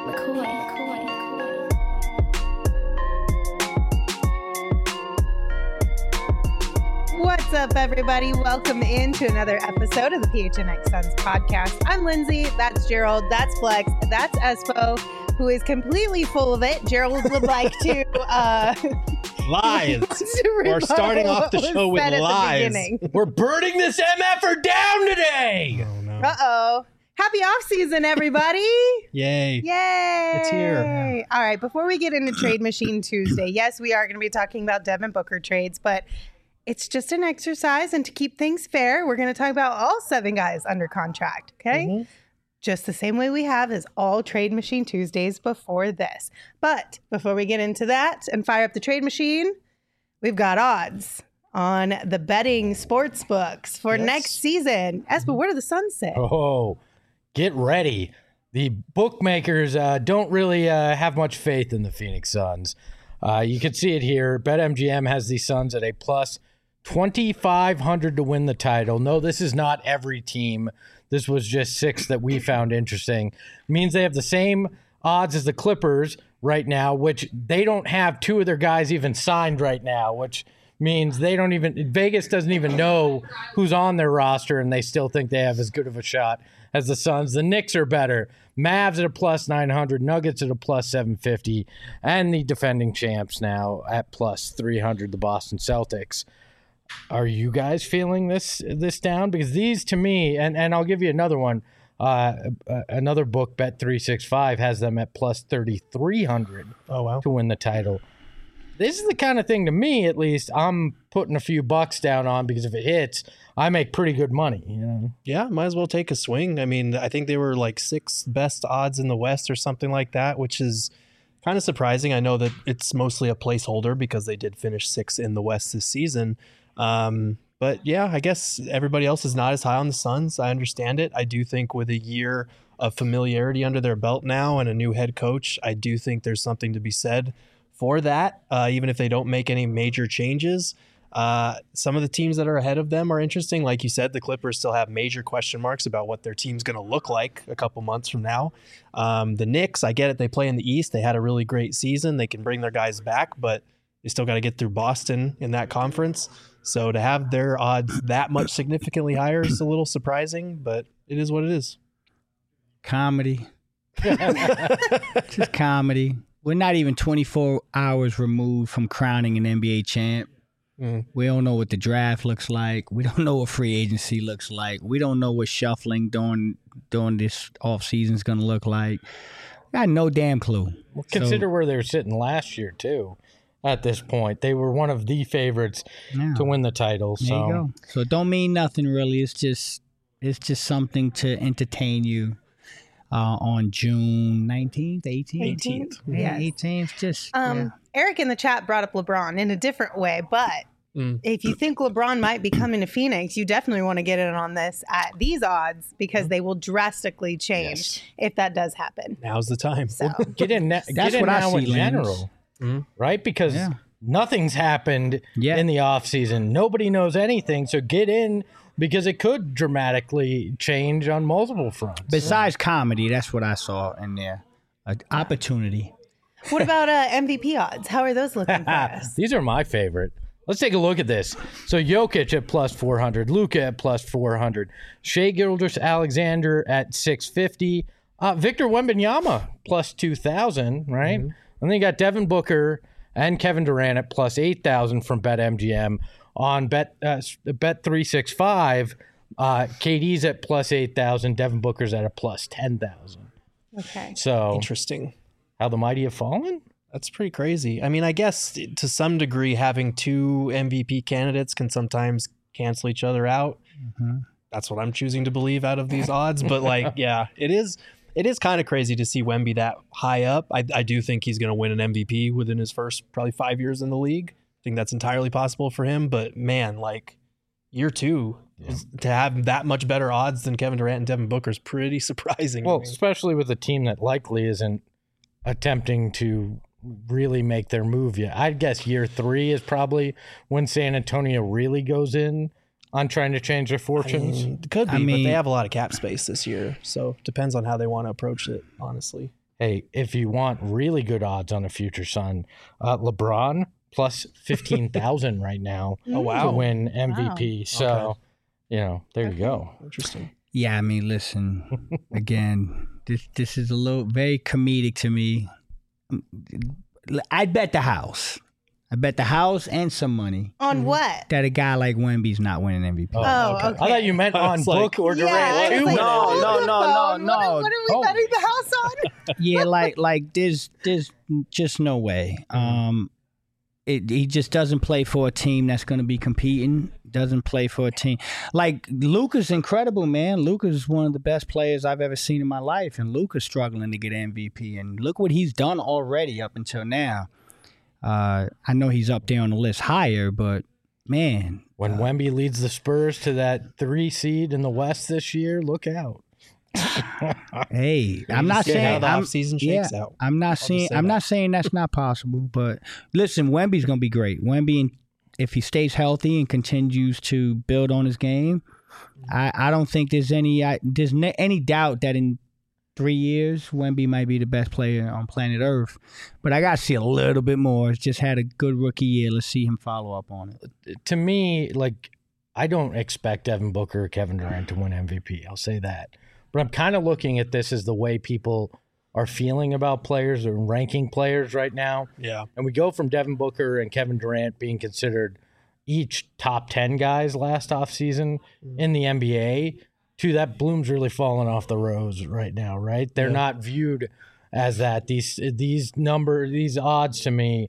What's up, everybody? Welcome into another episode of the PHNX Suns podcast. I'm Lindsay. That's Gerald. That's Flex. That's Espo, who is completely full of it. Gerald would like to lies. We're starting off the show with lies. We're burning this MFer down today. Oh, no. Uh-oh. Happy off season, everybody. Yay. Yay. It's here. All right, before we get into Trade Machine Tuesday, yes, we are going to be talking about Devin Booker trades, but it's just an exercise, and to keep things fair, we're going to talk about all 7 guys under contract, okay? Mm-hmm. Just the same way we have as all Trade Machine Tuesdays before this. But before we get into that and fire up the trade machine, we've got odds on the betting sports books for next season. Espo, what do the Suns say? Oh, get ready. The bookmakers don't really have much faith in the Phoenix Suns. You can see it here. BetMGM has the Suns at a plus 2,500 to win the title. No, this is not every team. This was just 6 that we found interesting. It means they have the same odds as the Clippers right now, which they don't have 2 of their guys even signed right now, which means Vegas doesn't even know who's on their roster, and they still think they have as good of a shot as the Suns. The Knicks are better. Mavs at a plus 900, Nuggets at a plus 750, and the defending champs now at plus 300, the Boston Celtics. Are you guys feeling this down? Because these, to me, and I'll give you another one. Another book, Bet365, has them at plus 3,300 to win the title. This is the kind of thing, to me at least, I'm putting a few bucks down on, because if it hits, I make pretty good money. You know? Yeah, might as well take a swing. I mean, I think they were like 6th best odds in the West or something like that, which is kind of surprising. I know that it's mostly a placeholder because they did finish 6th in the West this season. But yeah, I guess everybody else is not as high on the Suns. I understand it. I do think with a year of familiarity under their belt now and a new head coach, I do think there's something to be said for that. Even if they don't make any major changes, some of the teams that are ahead of them are interesting. Like you said, the Clippers still have major question marks about what their team's going to look like a couple months from now. The Knicks, I get it. They play in the East. They had a really great season. They can bring their guys back, but they still got to get through Boston in that conference. So to have their odds that much significantly higher is a little surprising, but it is what it is. Comedy. Just comedy. We're not even 24 hours removed from crowning an NBA champ. We don't know what the draft looks like. We don't know what free agency looks like. We don't know what shuffling during this offseason is going to look like. I got no damn clue. Well, consider where they were sitting last year, too. At this point, they were one of the favorites to win the title. There you go. So it don't mean nothing really. It's just something to entertain you on June 19th, 18th. Yeah, 18th. Just Eric in the chat brought up LeBron in a different way, but if you think LeBron might be coming to Phoenix, you definitely want to get in on this at these odds, because they will drastically change if that does happen. Now's the time. So. Well, get in now in general. Right? Because nothing's happened in the offseason. Nobody knows anything. So get in, because it could dramatically change on multiple fronts. Besides comedy, that's what I saw in there. An opportunity. What about MVP odds? How are those looking for us? These are my favorite. Let's take a look at this. So Jokic at plus 400, Luka at plus 400, Shai Gilgeous-Alexander at 650, Victor Wembanyama plus 2,000, right? And then you got Devin Booker and Kevin Durant at plus 8,000 from BetMGM. On Bet365, KD's at plus 8,000. Devin Booker's at a plus 10,000. Okay. So interesting. How the mighty have fallen? That's pretty crazy. I mean, I guess to some degree, having 2 MVP candidates can sometimes cancel each other out. That's what I'm choosing to believe out of these odds. But it is kind of crazy to see Wemby that high up. I do think he's going to win an MVP within his first probably 5 years in the league. I think that's entirely possible for him. But man, year 2 to have that much better odds than Kevin Durant and Devin Booker is pretty surprising. Well, especially with a team that likely isn't attempting to really make their move yet. I'd guess year 3 is probably when San Antonio really goes in on trying to change their fortunes. Could be, but they have a lot of cap space this year, so it depends on how they want to approach it, honestly. Hey, if you want really good odds on a future Sun, LeBron plus 15,000 right now Oh, wow. to win MVP. So, Okay. there you go. Interesting. Yeah, I mean, listen, again, this is a little very comedic to me. I bet the house. I bet the house and some money On what? that a guy like Wemby's not winning MVP. Oh, okay. okay. I thought you meant I on was like- book or Yeah, Durant. I was too. like, No, hold no, the no, phone. no, What are we Oh. betting the house on? Yeah, like there's just no way. He just doesn't play for a team that's going to be competing. Doesn't play for a team like Luka's incredible, man. Luka's one of the best players I've ever seen in my life, and Luka's struggling to get MVP. And look what he's done already up until now. I know he's up there on the list higher, but man, When Wemby leads the Spurs to that 3 seed in the West this year, look out. hey, I'm not See how saying the I'm, offseason shakes out. I'm not just saying say I'm that. not saying that's not possible, but listen, Wemby's gonna be great. Wemby, if he stays healthy and continues to build on his game, I don't think there's any doubt that in 3 years Wemby might be the best player on planet Earth. But I gotta see a little bit more. He's just had a good rookie year. Let's see him follow up on it. To me, I don't expect Devin Booker or Kevin Durant to win MVP. I'll say that. But I'm kind of looking at this as the way people are feeling about players or ranking players right now. Yeah. And we go from Devin Booker and Kevin Durant being considered each top 10 guys last offseason in the NBA to that bloom's really falling off the rose right now, right? They're not viewed as that. These odds to me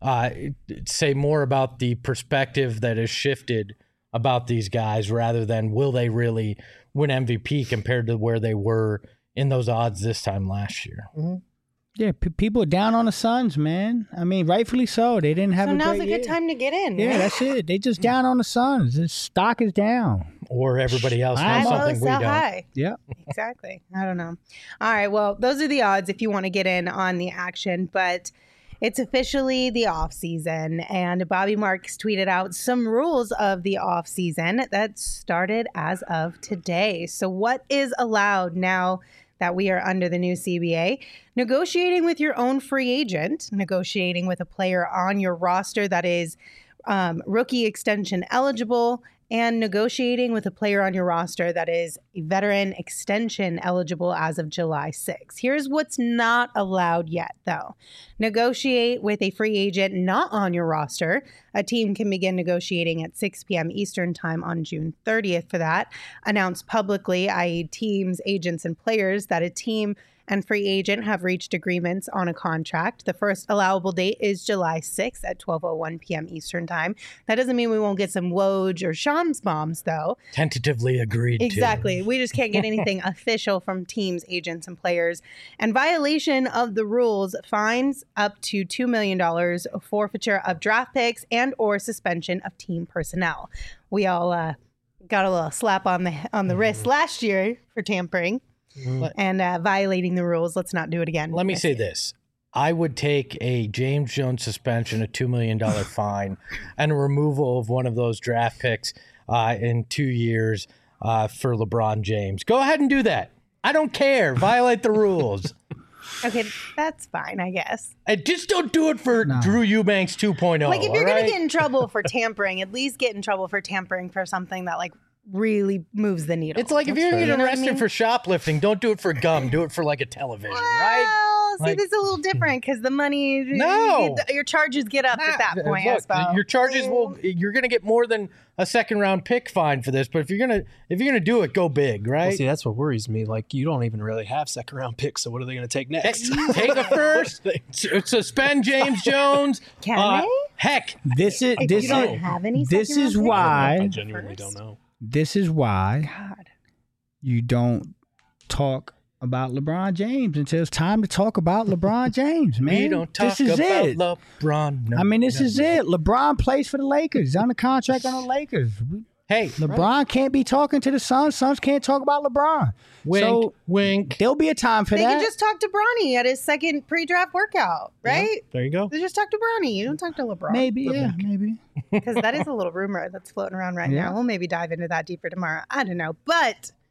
say more about the perspective that has shifted about these guys rather than will they really win MVP compared to where they were in those odds this time last year. Yeah, people are down on the Suns, man. I mean, rightfully so. They didn't have So a now's great a good year. time to get in. Yeah, that's it. They just down on the Suns. His stock is down. Or everybody else Buy knows low, something we sell don't. high. Yeah. Exactly. I don't know. All right. Well, those are the odds if you want to get in on the action, but it's officially the off season, and Bobby Marks tweeted out some rules of the off season that started as of today. So what is allowed now that we are under the new CBA? Negotiating with your own free agent, negotiating with a player on your roster that is rookie extension eligible, and negotiating with a player on your roster that is a veteran extension eligible as of July 6th. Here's what's not allowed yet, though. Negotiate with a free agent not on your roster. A team can begin negotiating at 6 p.m. Eastern Time on June 30th for that. Announce publicly, i.e. teams, agents, and players, that a team and free agent have reached agreements on a contract. The first allowable date is July 6th at 12:01 p.m. Eastern Time. That doesn't mean we won't get some Woj or Shams bombs, though. Tentatively agreed Exactly. We just can't get anything official from teams, agents, and players. And violation of the rules, fines up to $2 million, forfeiture of draft picks, and or suspension of team personnel. We all got a little slap on the wrist last year for tampering and violating the rules. Let's not do it again. Let me this say year. this. I would take a James Jones suspension, a $2 million fine, and a removal of one of those draft picks in 2 years for LeBron James. Go ahead and do that. I don't care. Violate the rules. Okay, that's fine, I guess. And just don't do it for Drew Eubanks 2.0. Like, if you're all going right? to get in trouble for tampering, at least get in trouble for tampering for something that, like, really moves the needle. It's like if you're going to You get know what I arrested mean? for shoplifting, don't do it for gum. Do it for like a television, right? Well, see, Like- this is a little different because the money, No. your charges get up at that point. I Look, suppose. your charges you're going to get more than a second round pick fine for this, but if you're going to do it, go big, right? Well, see, that's what worries me. Like, you don't even really have second round picks, so what are they going to take next? Take a first, suspend James Jones. Can they? Heck, This is If this you don't is have any this second-round is picks? why I genuinely don't know. this is why God. you don't talk about LeBron James until it's time to talk about LeBron James, man. we don't talk this is about it. LeBron. No, I mean, this no. is it. LeBron plays for the Lakers. He's on the contract on the Lakers. Hey, LeBron can't be talking to the Suns. Suns can't talk about LeBron. wink, So wink. there'll be a time for They that. could just talk to Bronny at his second pre-draft workout, right? There you go. They just talk to Bronny. You don't talk to LeBron. Maybe, yeah, maybe. Because that is a little rumor that's floating around right Yeah. now. We'll maybe dive into that deeper tomorrow. I don't know. But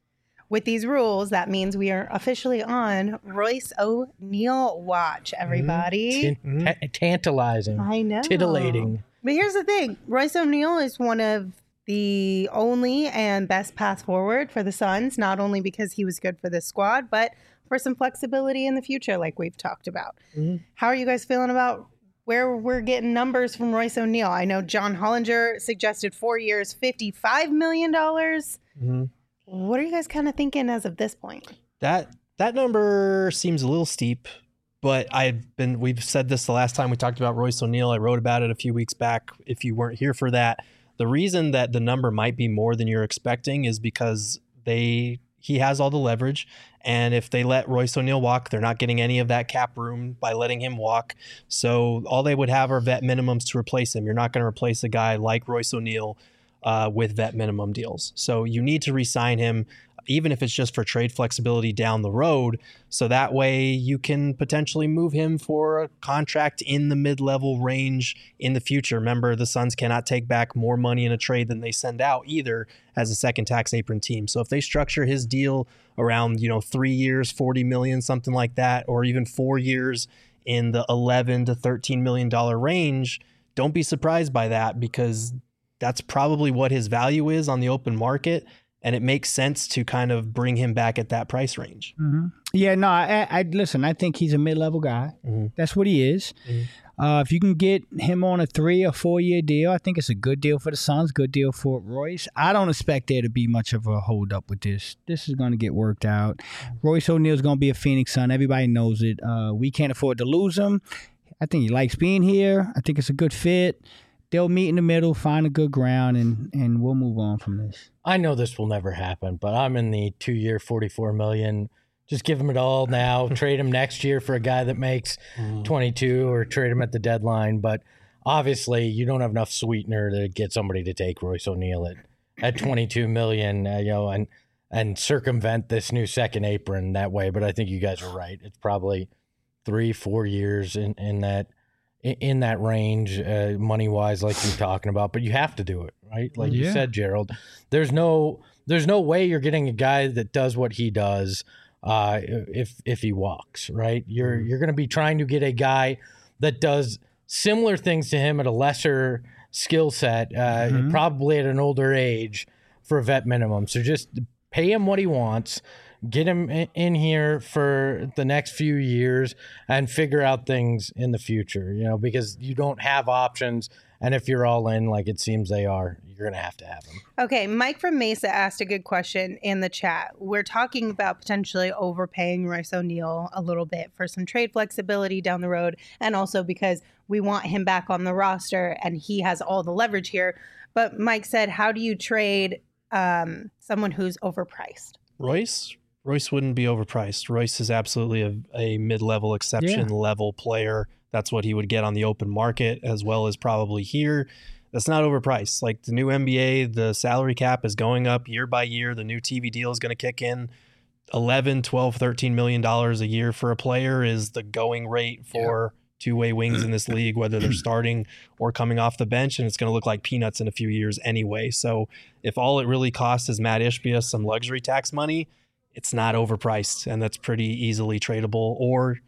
with these rules, that means we are officially on Royce O'Neal watch, everybody. Tantalizing. I know. Titillating. But here's the thing. Royce O'Neal is one of the only and best path forward for the Suns, not only because he was good for this squad, but for some flexibility in the future, like we've talked about. How are you guys feeling about where we're getting numbers from Royce O'Neal? I know John Hollinger suggested 4 years, $55 million. What are you guys kind of thinking as of this point? That number seems a little steep, but we've said this the last time we talked about Royce O'Neal. I wrote about it a few weeks back. If you weren't here for that, the reason that the number might be more than you're expecting is because he has all the leverage. And if they let Royce O'Neal walk, they're not getting any of that cap room by letting him walk. So all they would have are vet minimums to replace him. You're not going to replace a guy like Royce O'Neal with vet minimum deals. So you need to re-sign him, even if it's just for trade flexibility down the road. So that way you can potentially move him for a contract in the mid-level range in the future. Remember, the Suns cannot take back more money in a trade than they send out either as a second tax apron team. So if they structure his deal around, 3 years, 40 million, something like that, or even 4 years in the 11 to $13 million range, don't be surprised by that, because that's probably what his value is on the open market. And it makes sense to kind of bring him back at that price range. Yeah, no, I listen, I think he's a mid-level guy. That's what he is. If you can get him on a 3 or 4 year deal, I think it's a good deal for the Suns, good deal for Royce. I don't expect there to be much of a hold up with this. This is going to get worked out. Royce O'Neal's going to be a Phoenix Sun. Everybody knows it. We can't afford to lose him. I think he likes being here. I think it's a good fit. They'll meet in the middle, find a good ground, and we'll move on from this. I know this will never happen, but I'm in the 2 year, $44 million. Just give him it all now. Trade him next year for a guy that makes 22, or trade him at the deadline. But obviously, you don't have enough sweetener to get somebody to take Royce O'Neal at $22 million, and circumvent this new second apron that way. But I think you guys are right. It's probably 3-4 years in that range, money wise, like you're talking about. But you have to do it, right? Like you said, Gerald. There's no way you're getting a guy that does what he does if he walks, right? You're going to be trying to get a guy that does similar things to him at a lesser skill set, probably at an older age, for a vet minimum. So just pay him what he wants. Get him in here for the next few years and figure out things in the future, because you don't have options. And if you're all in, like it seems they are, you're going to have him. Okay, Mike from Mesa asked a good question in the chat. We're talking about potentially overpaying Royce O'Neal a little bit for some trade flexibility down the road, and also because we want him back on the roster and he has all the leverage here. But Mike said, how do you trade someone who's overpriced? Royce wouldn't be overpriced. Royce is absolutely a mid-level exception level player. That's what he would get on the open market, as well as probably here. That's not overpriced. Like the new NBA, the salary cap is going up year by year. The new TV deal is going to kick in. $11, $12, $13 million a year for a player is the going rate for two-way wings in this league, whether they're starting or coming off the bench, and it's going to look like peanuts in a few years anyway. So if all it really costs is Matt Ishbia some luxury tax money, it's not overpriced, and that's pretty easily tradable or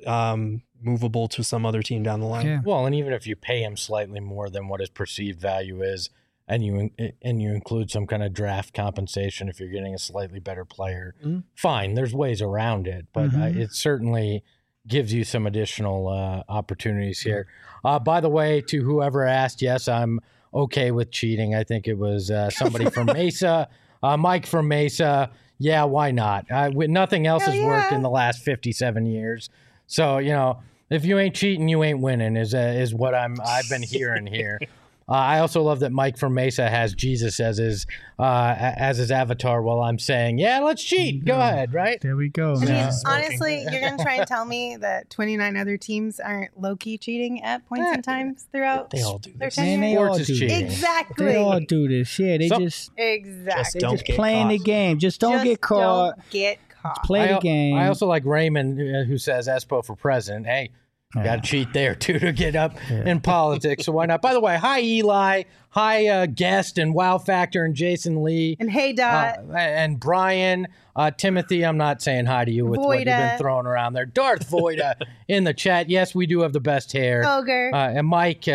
movable to some other team down the line. Yeah. Well, and even if you pay him slightly more than what his perceived value is, and you include some kind of draft compensation if you're getting a slightly better player, fine. There's ways around it, but it certainly gives you some additional opportunities here. By the way, to whoever asked, yes, I'm okay with cheating. I think it was somebody from Mesa, Mike from Mesa. Yeah, why not? Nothing else has worked in the last 57 years. So, if you ain't cheating, you ain't winning is what I've been hearing here. I also love that Mike from Mesa has Jesus as his avatar while I'm saying, yeah, let's cheat. Go ahead, right? There we go, I man. mean, honestly, you're going to try and tell me that 29 other teams aren't low-key cheating at points and times throughout They all do their this. tenure? Man, they all Sports is do cheating. this. Exactly. They all do this. Yeah, they just Exactly. Don't just get playing the caught. game. Just don't get caught. Don't get caught. Play the game. I also like Raymond, who says Espo for president. Hey, Got to cheat there, too, to get up in politics. So why not? By the way, hi, Eli. Hi, Guest and Wow Factor and Jason Lee. And hey, Dot. And Brian. Timothy, I'm not saying hi to you with what you've been throwing around there. Darth Voida in the chat. Yes, we do have the best hair. Ogre. And Mike,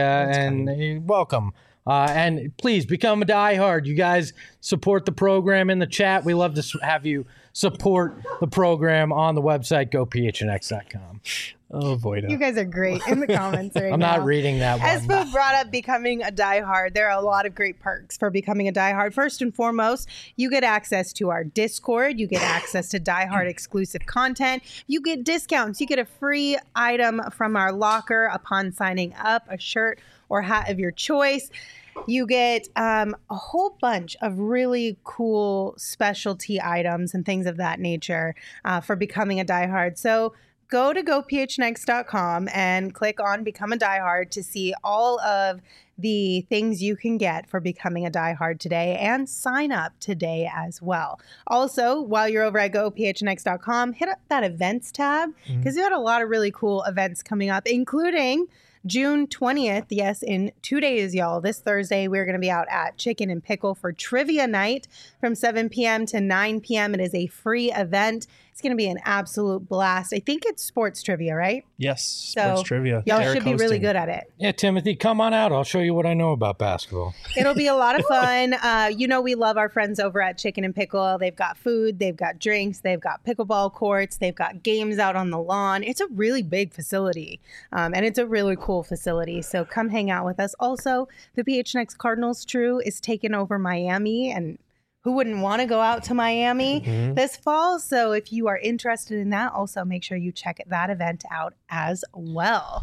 and welcome. And please become a diehard. You guys support the program in the chat. We love to have you support the program on the website, gophnx.com. Oh, Voida. You guys are great in the comments right now. I'm not reading that one. Espo brought up becoming a diehard. There are a lot of great perks for becoming a diehard. First and foremost, you get access to our Discord. You get access to diehard exclusive content. You get discounts. You get a free item from our locker upon signing up, a shirt or hat of your choice. You get a whole bunch of really cool specialty items and things of that nature for becoming a diehard. So go to gophnx.com and click on Become a Diehard to see all of the things you can get for becoming a diehard today, and sign up today as well. Also, while you're over at gophnx.com, hit up that events tab because we had a lot of really cool events coming up, including June 20th. Yes, in 2 days, y'all. This Thursday, we're going to be out at Chicken and Pickle for trivia night from 7 p.m. to 9 p.m. It is a free event. It's going to be an absolute blast. I think it's sports trivia, right? Yes, sports trivia. Y'all Eric should be really hosting. good at it. Yeah, Timothy, come on out. I'll show you what I know about basketball. It'll be a lot of fun. We love our friends over at Chicken and Pickle. They've got food, they've got drinks, they've got pickleball courts, they've got games out on the lawn. It's a really big facility, and it's a really cool facility. So come hang out with us. Also, the PHNX Cardinals True is taking over Miami, and who wouldn't want to go out to Miami this fall? So if you are interested in that, also make sure you check that event out as well.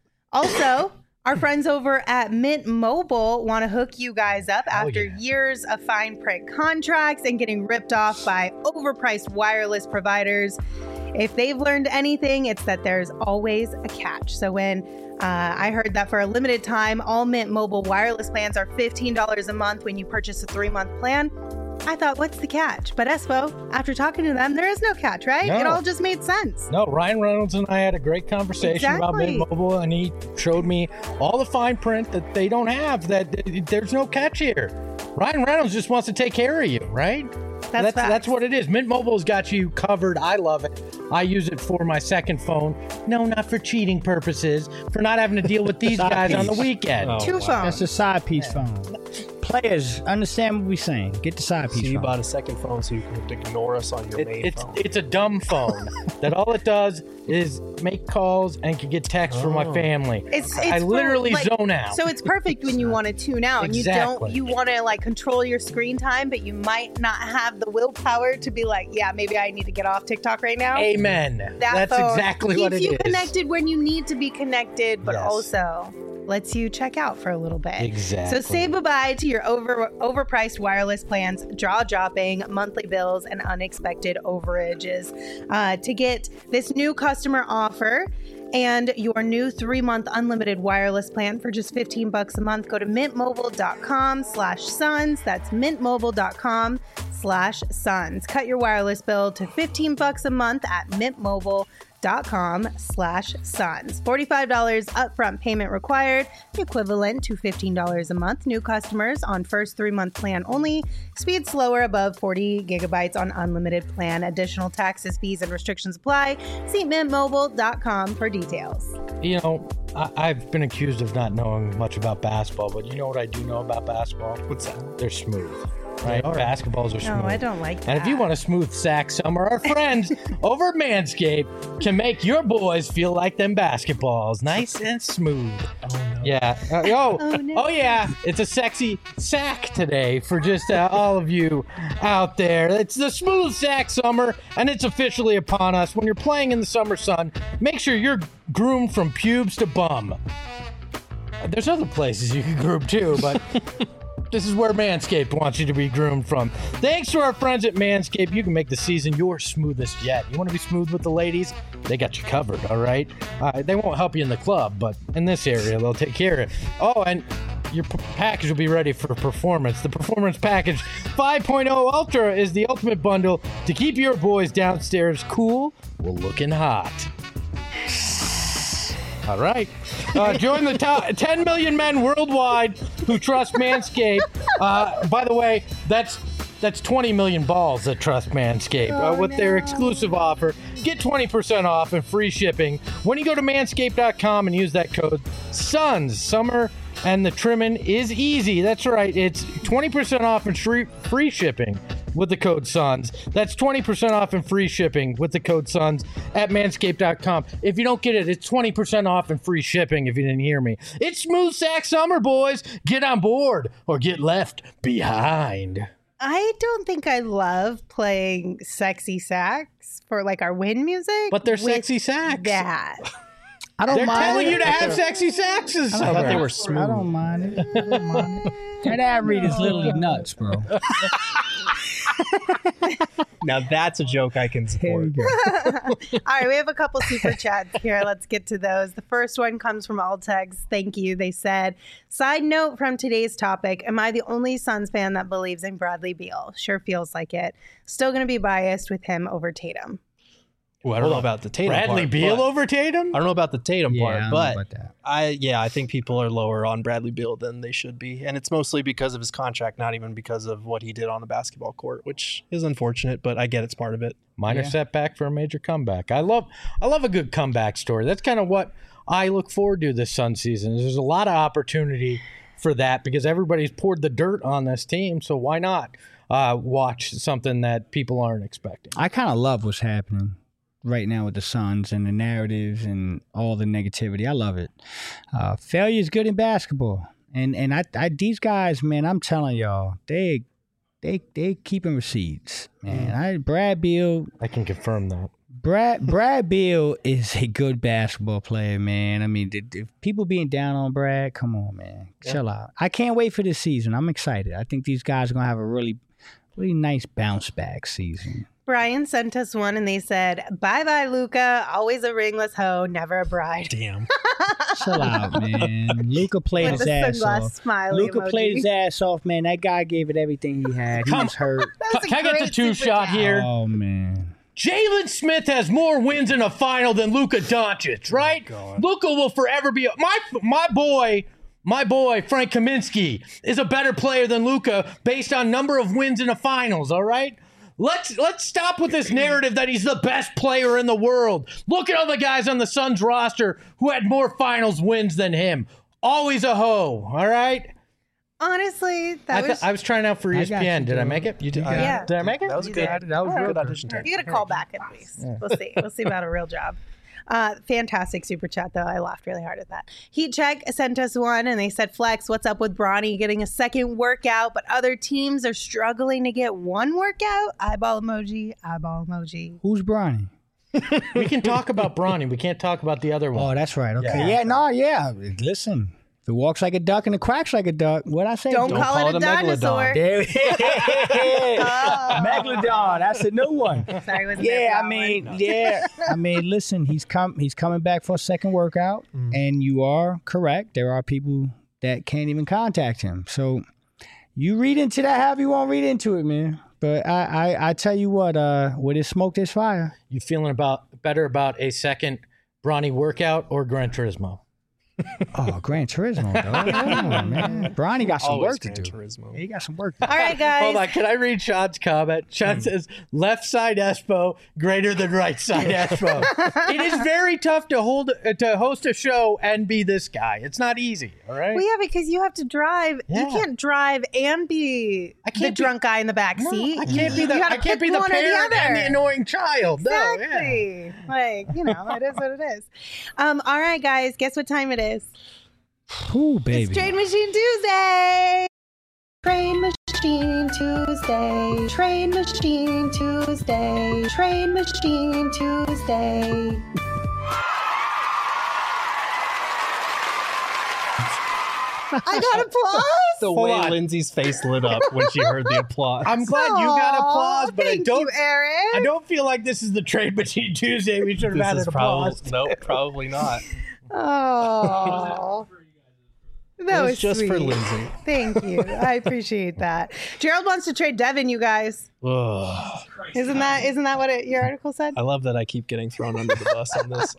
Also, our friends over at Mint Mobile want to hook you guys up after years of fine print contracts and getting ripped off by overpriced wireless providers. If they've learned anything, it's that there's always a catch. So when I heard that for a limited time, all Mint Mobile wireless plans are $15 a month when you purchase a 3-month plan, I thought, what's the catch? But Espo, after talking to them, there is no catch, right? No. It all just made sense. No, Ryan Reynolds and I had a great conversation about Mint Mobile, and he showed me all the fine print that they don't have, that there's no catch here. Ryan Reynolds just wants to take care of you, right? That's what it is. Mint Mobile's got you covered. I love it. I use it for my second phone. No, not for cheating purposes, for not having to deal with these guys on the weekend. Two phones. That's a side piece phone. Players, understand what we're saying. Get the side piece So you phone. bought a second phone so you can ignore us on your main phone. It's a dumb phone that all it does is make calls and can get texts from my family. I literally zone out. So it's perfect when you want to tune out Exactly. and you want to like control your screen time, but you might not have the willpower to be like, yeah, maybe I need to get off TikTok right now. Amen. That's phone exactly what it is. keeps you connected when you need to be connected, but Yes. also lets you check out for a little bit. Exactly. So say bye-bye to your overpriced wireless plans, jaw-dropping monthly bills, and unexpected overages. To get this new customer offer and your new 3-month unlimited wireless plan for just $15 a month, go to mintmobile.com/sons. That's mintmobile.com/sons. Cut your wireless bill to $15 a month at mintmobile.com/sons. $45 upfront payment required, equivalent to $15 a month. New customers on first 3-month plan only. Speed slower above 40 gigabytes on unlimited plan. Additional taxes, fees, and restrictions apply. See mintmobile.com for details. You know, I've been accused of not knowing much about basketball, but you know what I do know about basketball? What's that? They're smooth. Right? Basketballs are smooth. No, I don't like that. And if you want a smooth sack summer, our friends over at Manscaped can make your boys feel like them basketballs. Nice and smooth. Oh, no. Yeah. no. Yeah. It's a sexy sack today for just all of you out there. It's the smooth sack summer, and it's officially upon us. When you're playing in the summer sun, make sure you're groomed from pubes to bum. There's other places you can groom too, but this is where Manscaped wants you to be groomed from. Thanks to our friends at Manscaped, you can make the season your smoothest yet. You want to be smooth with the ladies? They got you covered, all right? They won't help you in the club, but in this area, they'll take care of it. Oh, and your package will be ready for performance. The Performance Package 5.0 Ultra is the ultimate bundle to keep your boys downstairs cool while looking hot. All right. Join the top 10 million men worldwide who trust Manscaped. By the way, that's 20 million balls that trust Manscaped with their exclusive offer. Get 20% off and free shipping when you go to manscaped.com and use that code SUNS. Summer and the trimming is easy. That's right. It's 20% off and free shipping with the code SUNS. That's 20% off and free shipping with the code SUNS at manscaped.com. If you don't get it, it's 20% off and free shipping if you didn't hear me. It's Smooth Sack Summer, boys. Get on board or get left behind. I don't think I love playing sexy sax for like our win music. But they're sexy sax. That. I don't They're mind telling it. you to have sexy saxes. I thought they were smooth. I don't mind it. I don't mind it. That ad read is literally nuts, bro. Now that's a joke I can Here we support. go. All right, we have a couple super chats here. Let's get to those. The first one comes from Altex. Thank you. They said, side note from today's topic, am I the only Suns fan that believes in Bradley Beal? Sure feels like it. Still going to be biased with him over Tatum. Well, I don't know about the Tatum Bradley part, Beal but- over Tatum? I don't know about the Tatum Yeah, I part, don't know but about that. I think people are lower on Bradley Beal than they should be, and it's mostly because of his contract, not even because of what he did on the basketball court, which is unfortunate, but I get it's part of it. Minor Yeah. setback for a major comeback. I love a good comeback story. That's kind of what I look forward to this Sun season. There's a lot of opportunity for that because everybody's poured the dirt on this team, so why not watch something that people aren't expecting? I kind of love what's happening right now with the Suns and the narratives and all the negativity. I love it. Failure is good in basketball, and I these guys, man, I'm telling y'all, they keeping receipts, man. Brad Beal. I can confirm that. Brad Beal is a good basketball player, man. I mean, if people being down on Brad, come on, man, chill out. I can't wait for this season. I'm excited. I think these guys are gonna have a really nice bounce back season. Brian sent us one and they said, bye-bye, Luca. Always a ringless hoe, never a bride. Damn. Chill out, man. Luka played With his the ass sunglass off. smiley Luka emoji. played his ass off, man. That guy gave it everything he had. He was hurt. That was a Can I get the great two super shot chat. here? Oh man. Jalen Smith has more wins in a final than Luka Doncic, right? Luka will forever be my boy. My boy Frank Kaminsky is a better player than Luka based on number of wins in the finals. All right, let's stop with this narrative that he's the best player in the world. Look at all the guys on the Suns roster who had more finals wins than him. Always a hoe. All right. Honestly, that I was trying out for I got ESPN. you, Did I dude. make it? You did. Yeah. Did I make it? That was You good. did. That was Good good. audition tape. you got to call back at least. We'll see. We'll see about a real job. Fantastic super chat, though. I laughed really hard at that. Heat Check sent us one, and they said, Flex, what's up with Bronny getting a second workout, but other teams are struggling to get one workout? Eyeball emoji, eyeball emoji. Who's Bronny? We can talk about Bronny. We can't talk about the other one. Oh, that's right. Okay. Yeah. Listen, if it walks like a duck and it quacks like a duck, what'd I say? Don't Don't call call it a it a megalodon. dinosaur. There Oh. Megalodon. That's a new one. Sorry, wasn't there Yeah, for that one? I mean, listen, he's coming back for a second workout, and you are correct. There are people that can't even contact him. So you read into that however you want to read into it, man. But I tell you what, where there's smoke, there's fire. You feeling better about a second Bronny workout or Gran Turismo? Oh, Gran Turismo, though. Come on, man. Bronny got some Always work to Gran do. Turismo. He got some work to do. All right, guys. Hold on, can I read Sean's comment? Sean says, left side Espo greater than right side Espo. It is very tough to host a show and be this guy. It's not easy, all right? Well, yeah, because you have to drive. Yeah. You can't drive and be I the can't be- drunk guy in the back No, seat. I can't be You gotta I can't pick be the one or parent and the other. annoying child. No, yeah. Exactly. Like, it is what it is. All right, guys. Guess what time it is? Ooh, baby. It's Train Machine Tuesday. Train Machine Tuesday. Train Machine Tuesday. Train Machine Tuesday. I got applause. The Hold way on. Lindsay's face lit up when she heard the applause. I'm glad you got applause, but Thank you, Aaron. I don't feel like this is the Trade Machine Tuesday. We should have This had is an applause. nope, probably not. Oh. That was was just for sweet. Lindsay. Thank you. I appreciate that. Gerald wants to trade Devin, you guys. Ugh. Isn't that what your article said? I love that I keep getting thrown under the bus on this.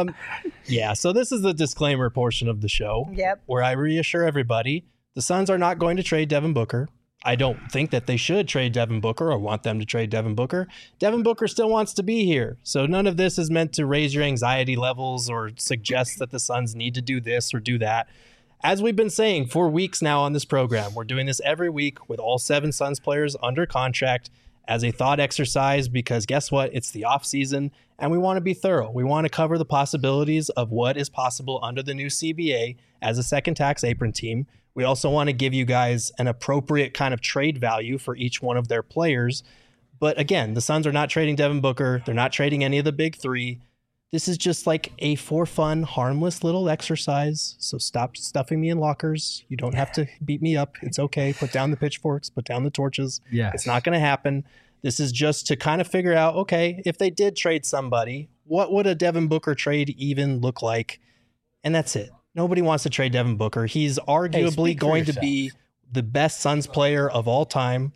Yeah, so this is the disclaimer portion of the show. Yep. Where I reassure everybody, the Suns are not going to trade Devin Booker. I don't think that they should trade Devin Booker or want them to trade Devin Booker. Devin Booker still wants to be here. So none of this is meant to raise your anxiety levels or suggest that the Suns need to do this or do that. As we've been saying for weeks now on this program, we're doing this every week with all 7 Suns players under contract as a thought exercise because guess what? It's the off season and we want to be thorough. We want to cover the possibilities of what is possible under the new CBA as a second tax apron team. We also want to give you guys an appropriate kind of trade value for each one of their players. But again, the Suns are not trading Devin Booker. They're not trading any of the big 3. This is just like a for fun, harmless little exercise. So stop stuffing me in lockers. You don't have to beat me up. It's okay. Put down the pitchforks, put down the torches. Yes. It's not going to happen. This is just to kind of figure out, okay, if they did trade somebody, what would a Devin Booker trade even look like? And that's it. Nobody wants to trade Devin Booker. He's arguably speak for going to yourself. be the best Suns player of all time.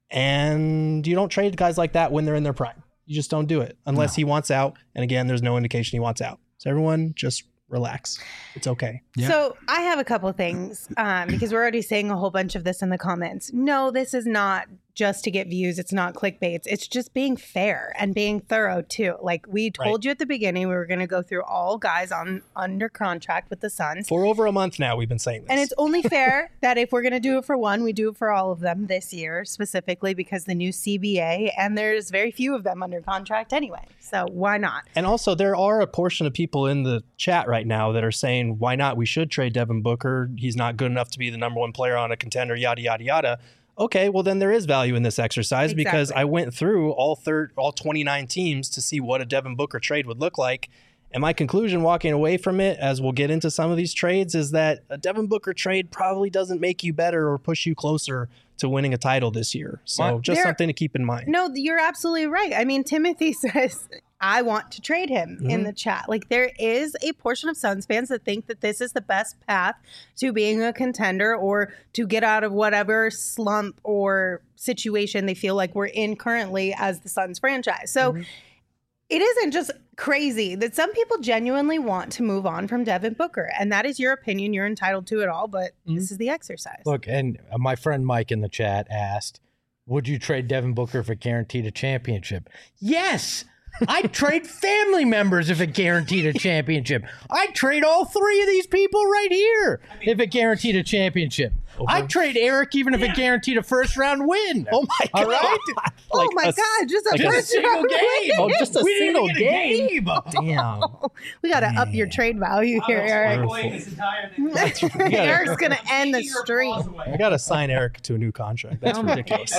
And you don't trade guys like that when they're in their prime. You just don't do it unless he wants out. And again, there's no indication he wants out. So everyone just relax. It's okay. Yeah. So I have a couple things because we're already saying a whole bunch of this in the comments. No, this is not just to get views. It's not clickbaits. It's just being fair and being thorough too. Like we told you at the beginning, we were going to go through all guys on under contract with the Suns. For over a month now, we've been saying this. And it's only fair that if we're going to do it for one, we do it for all of them this year, specifically because the new CBA, and there's very few of them under contract anyway. So why not? And also, there are a portion of people in the chat right now that are saying, why not? We should trade Devin Booker. He's not good enough to be the number 1 player on a contender, yada, yada, yada. Okay, well, then there is value in this exercise because I went through all 29 teams to see what a Devin Booker trade would look like. And my conclusion walking away from it, as we'll get into some of these trades, is that a Devin Booker trade probably doesn't make you better or push you closer to winning a title this year. So just something to keep in mind. No, you're absolutely right. I mean, Timothy says, I want to trade him in the chat. Like there is a portion of Suns fans that think that this is the best path to being a contender or to get out of whatever slump or situation they feel like we're in currently as the Suns franchise. So it isn't just crazy that some people genuinely want to move on from Devin Booker. And that is your opinion. You're entitled to it all, but this is the exercise. Look, and my friend Mike in the chat asked, would you trade Devin Booker if it guaranteed a championship? Yes! I'd trade family members if it guaranteed a championship. I'd trade all 3 of these people right here if it guaranteed a championship. I'd trade Eric even if it guaranteed a first-round win. Oh, my God. All right? Oh my God, just a Just a first single round game. win. Oh, just a We didn't single even get a game. Damn. We got to up your trade value here, Eric. Eric's going to end the streak. I got to sign Eric to a new contract. That's ridiculous.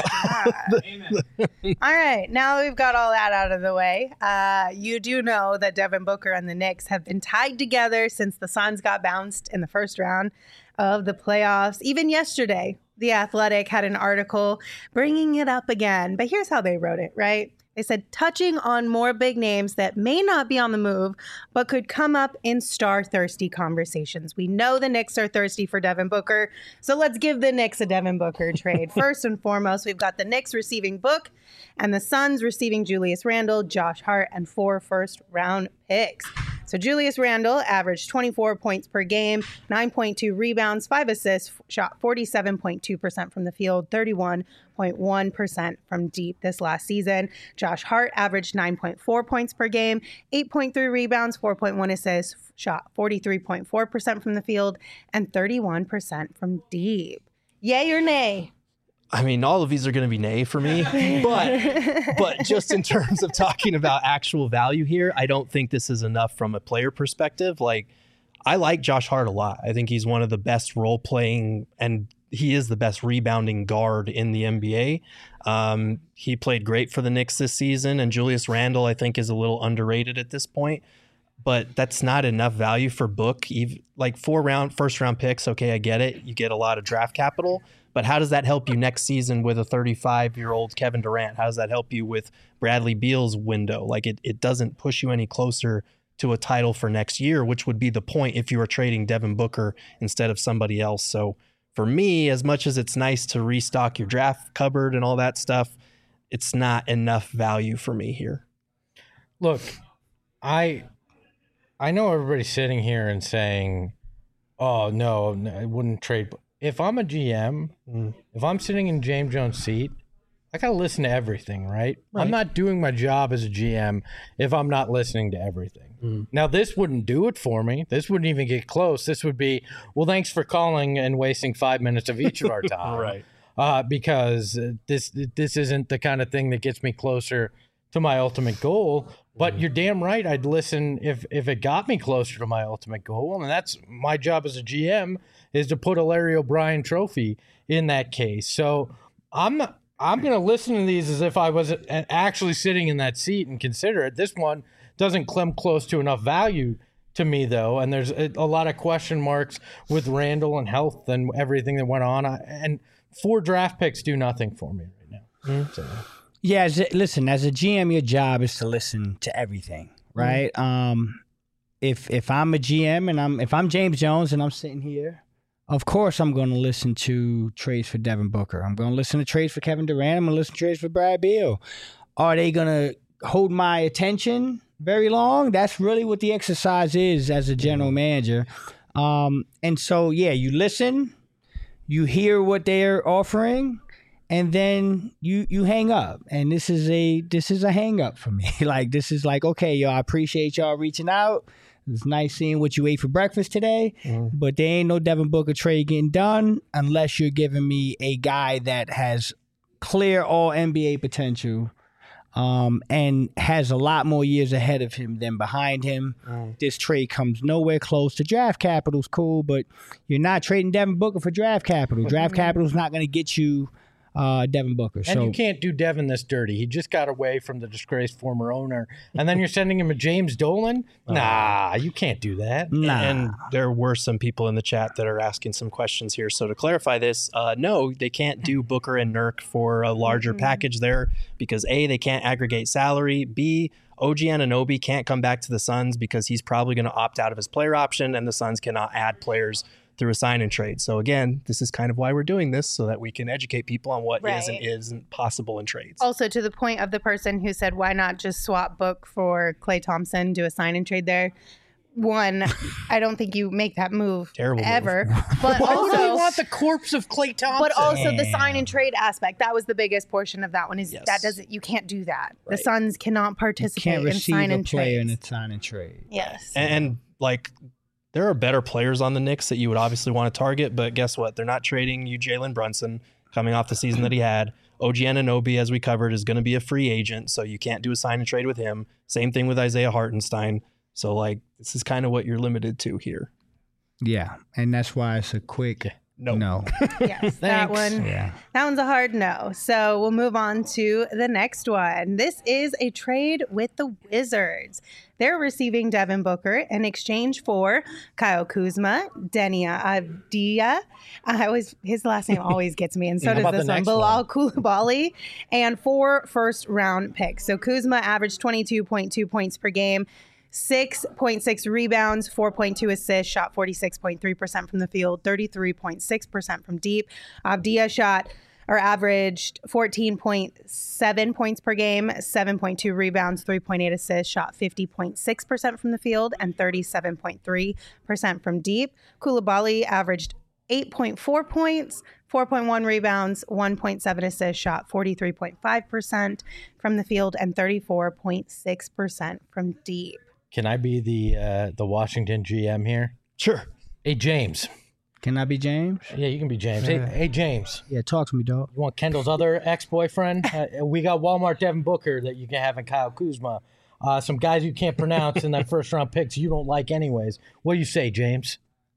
All right, now that we've got all that out of the way, you do know that Devin Booker and the Knicks have been tied together since the Suns got bounced in the first round of the playoffs. Even yesterday, The Athletic had an article bringing it up again. But here's how they wrote it, right? They said, touching on more big names that may not be on the move, but could come up in star-thirsty conversations. We know the Knicks are thirsty for Devin Booker, so let's give the Knicks a Devin Booker trade. First and foremost, we've got the Knicks receiving Book and the Suns receiving Julius Randle, Josh Hart, and 4 first-round picks. So Julius Randle averaged 24 points per game, 9.2 rebounds, 5 assists, shot 47.2% from the field, 31.1% from deep this last season. Josh Hart averaged 9.4 points per game, 8.3 rebounds, 4.1 assists, shot 43.4% from the field, and 31% from deep. Yay or nay? I mean, all of these are going to be nay for me, but just in terms of talking about actual value here, I don't think this is enough from a player perspective. Like, I like Josh Hart a lot. I think he's one of the best role playing, and he is the best rebounding guard in the NBA. He played great for the Knicks this season, and Julius Randle, I think, is a little underrated at this point. But that's not enough value for Book. Like first round picks, okay, I get it. You get a lot of draft capital. But how does that help you next season with a 35-year-old Kevin Durant? How does that help you with Bradley Beal's window? Like it doesn't push you any closer to a title for next year, which would be the point if you were trading Devin Booker instead of somebody else. So for me, as much as it's nice to restock your draft cupboard and all that stuff, it's not enough value for me here. Look, I know everybody's sitting here and saying, oh, no, I wouldn't trade. If I'm a GM, if I'm sitting in James Jones' seat, I got to listen to everything, right? I'm not doing my job as a GM if I'm not listening to everything. Now, this wouldn't do it for me. This wouldn't even get close. This would be, well, thanks for calling and wasting 5 minutes of each of our time. Right. Because this isn't the kind of thing that gets me closer to my ultimate goal. But you're damn right. I'd listen if it got me closer to my ultimate goal. And that's my job as a GM, is to put a Larry O'Brien trophy in that case. So I'm going to listen to these as if I was actually sitting in that seat and consider it. This one doesn't come close to enough value to me, though. And there's a lot of question marks with Randall and health and everything that went on. And 4 draft picks do nothing for me right now. So. Yeah, listen, as a GM, your job is to listen to everything, right? If I'm a GM and if I'm James Jones and I'm sitting here, of course I'm going to listen to trades for Devin Booker. I'm going to listen to trades for Kevin Durant. I'm going to listen to trades for Brad Beal. Are they going to hold my attention very long? That's really what the exercise is as a general manager. And so, yeah, you listen, you hear what they're offering, and then you hang up. And this is a hang up for me. Like, this is like, okay, y'all, I appreciate y'all reaching out. It's nice seeing what you ate for breakfast today, but there ain't no Devin Booker trade getting done unless you're giving me a guy that has clear all NBA potential and has a lot more years ahead of him than behind him. This trade comes nowhere close to draft capital's cool, but you're not trading Devin Booker for draft capital. Draft capital's not going to get you Devin Booker. And you can't do Devin this dirty. He just got away from the disgraced former owner. And then you're sending him a James Dolan? Nah, you can't do that. Nah. And there were some people in the chat that are asking some questions here. So to clarify this, no, they can't do Booker and Nurk for a larger package there because A, they can't aggregate salary. B, OG Anunoby can't come back to the Suns because he's probably going to opt out of his player option, and the Suns cannot add players through a sign and trade. So again, this is kind of why we're doing this, so that we can educate people on what is and isn't possible in trades. Also, to the point of the person who said, why not just swap Book for Klay Thompson, do a sign and trade there? One, I don't think you make that move ever. But Why also, would we want the corpse of Klay Thompson? But also the sign and trade aspect. That was the biggest portion of that one. Is that doesn't, you can't do that. Right. The Suns cannot participate in sign and trade. In a sign and trade. Yes. And like, there are better players on the Knicks that you would obviously want to target, but guess what? They're not trading you Jalen Brunson coming off the season that he had. OG Anunoby, as we covered, is going to be a free agent, so you can't do a sign and trade with him. Same thing with Isaiah Hartenstein. So, like, this is kind of what you're limited to here. Yeah, and that's why it's a quick no. Yes, that one. Yeah. That one's a hard no. So we'll move on to the next one. This is a trade with the Wizards. They're receiving Devin Booker in exchange for Kyle Kuzma, Denia Avdija. His last name always gets me, and so does this one. Bilal Coulibaly, and 4 first-round picks. So Kuzma averaged 22.2 points per game, 6.6 rebounds, 4.2 assists, shot 46.3% from the field, 33.6% from deep. Avdija averaged 14.7 points per game, 7.2 rebounds, 3.8 assists, shot 50.6% from the field, and 37.3% from deep. Coulibaly averaged 8.4 points, 4.1 rebounds, 1.7 assists, shot 43.5% from the field, and 34.6% from deep. Can I be the Washington GM here? Sure. Hey, James. Can I be James? Yeah, you can be James. Hey, James. Yeah, talk to me, dog. You want Kendall's other ex-boyfriend? We got Walmart Devin Booker that you can have in Kyle Kuzma. Some guys you can't pronounce in that first-round picks you don't like anyways. What do you say, James?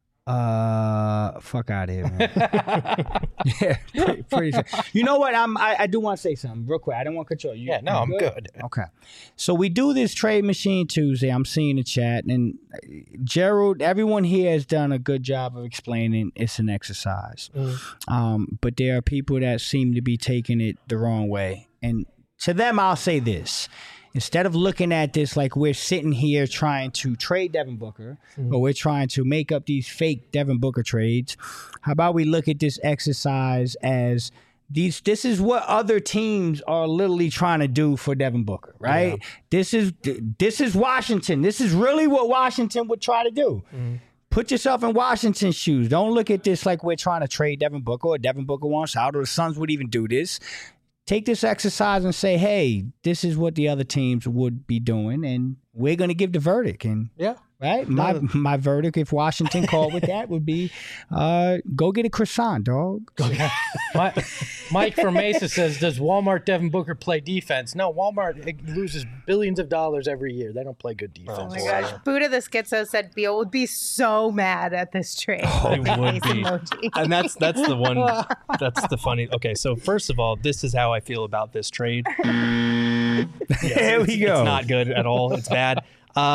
Fuck out of here, man. Yeah, pretty you know what? I do want to say something real quick. I don't want to control you. Yeah, no, I'm good. Okay. So we do this Trade Machine Tuesday. I'm seeing the chat, and Gerald, everyone here has done a good job of explaining it's an exercise. But there are people that seem to be taking it the wrong way. And to them, I'll say this. instead of looking at this like we're sitting here trying to trade Devin Booker, or we're trying to make up these fake Devin Booker trades, how about we look at this exercise as this is what other teams are literally trying to do for Devin Booker, right? Yeah. This is Washington. This is really what Washington would try to do. Put yourself in Washington's shoes. Don't look at this like we're trying to trade Devin Booker, or Devin Booker wants out, or the Suns would even do this. Take this exercise and say, hey, this is what the other teams would be doing, and we're going to give the verdict. And right, my verdict, if Washington called with that, would be go get a croissant, dog. Mike from Mesa says, does Walmart Devin Booker play defense? No, Walmart loses billions of dollars every year. They don't play good defense. Oh my gosh. Buddha the Schizo said Beal would be so mad at this trade. It would be. And that's the one, that's the funny. Okay, so first of all, this is how I feel about this trade. There we go. It's not good at all. It's bad.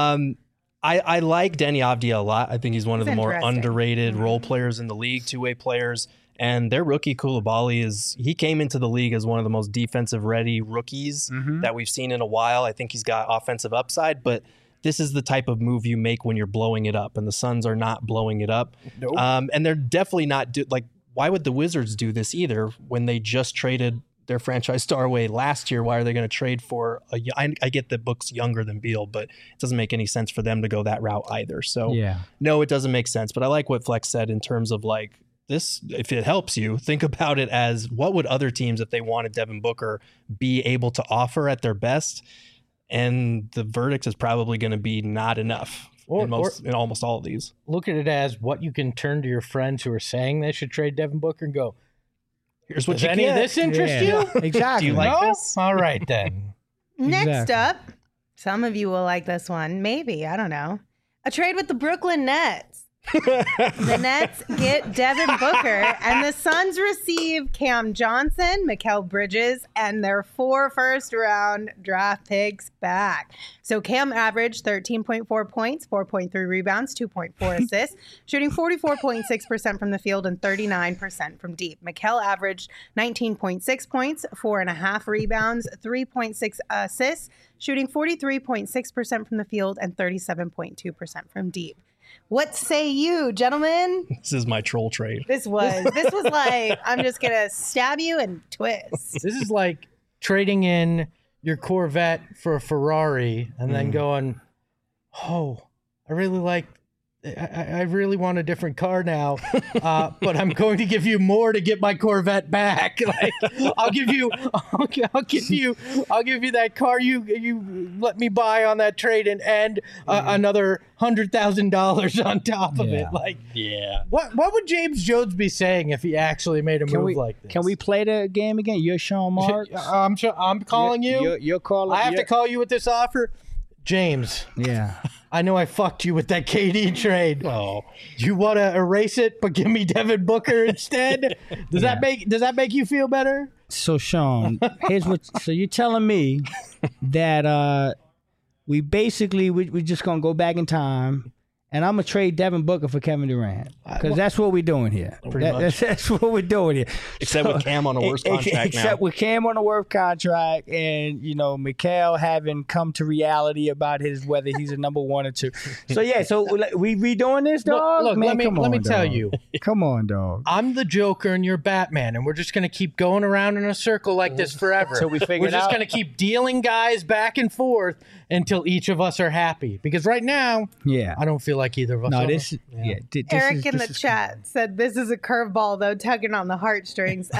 I like Denny Avdia a lot. I think he's one of the more underrated role players in the league, two-way players. And their rookie Coulibaly he came into the league as one of the most defensive ready rookies that we've seen in a while. I think he's got offensive upside, but this is the type of move you make when you're blowing it up, and the Suns are not blowing it up. Nope. And they're definitely not why would the Wizards do this either when they just traded their franchise star away last year? Why are they going to trade for I get that Book's younger than Beal, but it doesn't make any sense for them to go that route either. So no, it doesn't make sense. But I like what Flex said in terms of like this, if it helps you, think about it as what would other teams, if they wanted Devin Booker, be able to offer at their best? And the verdict is probably going to be not enough in almost all of these. Look at it as what you can turn to your friends who are saying they should trade Devin Booker and go, here's what does you any get. of this interest you? Exactly. Do you like this? All right, then. Next up, some of you will like this one. Maybe. I don't know. A trade with the Brooklyn Nets. The Nets get Devin Booker, and the Suns receive Cam Johnson, Mikal Bridges, and their 4 first-round draft picks back. So Cam averaged 13.4 points, 4.3 rebounds, 2.4 assists, shooting 44.6% from the field and 39% from deep. Mikal averaged 19.6 points, 4.5 rebounds, 3.6 assists, shooting 43.6% from the field and 37.2% from deep. What say you, gentlemen? This is my troll trade. This was like, I'm just going to stab you and twist. This is like trading in your Corvette for a Ferrari and then going, oh, I really want a different car now, but I'm going to give you more to get my Corvette back. Like, I'll give you that car you let me buy on that trade and another $100,000 on top of it. Like, what would James Jones be saying if he actually made a move like this? Can we play the game again? You're Sean Marks. I'm calling you. You're calling. I have to call you with this offer, James. Yeah. I know I fucked you with that KD trade. Oh, you want to erase it, but give me Devin Booker instead? Does that make you feel better? So Sean, so you're telling me that we're just gonna go back in time, and I'm gonna trade Devin Booker for Kevin Durant because that's what we're doing here. That's what we're doing here. Except with Cam on a worse contract Except with Cam on a worse contract, and Mikal having come to reality about whether he's a number 1 or 2. So we redoing this, dog. Look, man, let me tell you. Come on, dog. I'm the Joker and you're Batman, and we're just gonna keep going around in a circle like this forever. Until we figure it out. We're just gonna keep dealing guys back and forth until each of us are happy. Because right now, I don't feel like either of us. Eric in the chat said this is a curveball though, tugging on the heartstrings.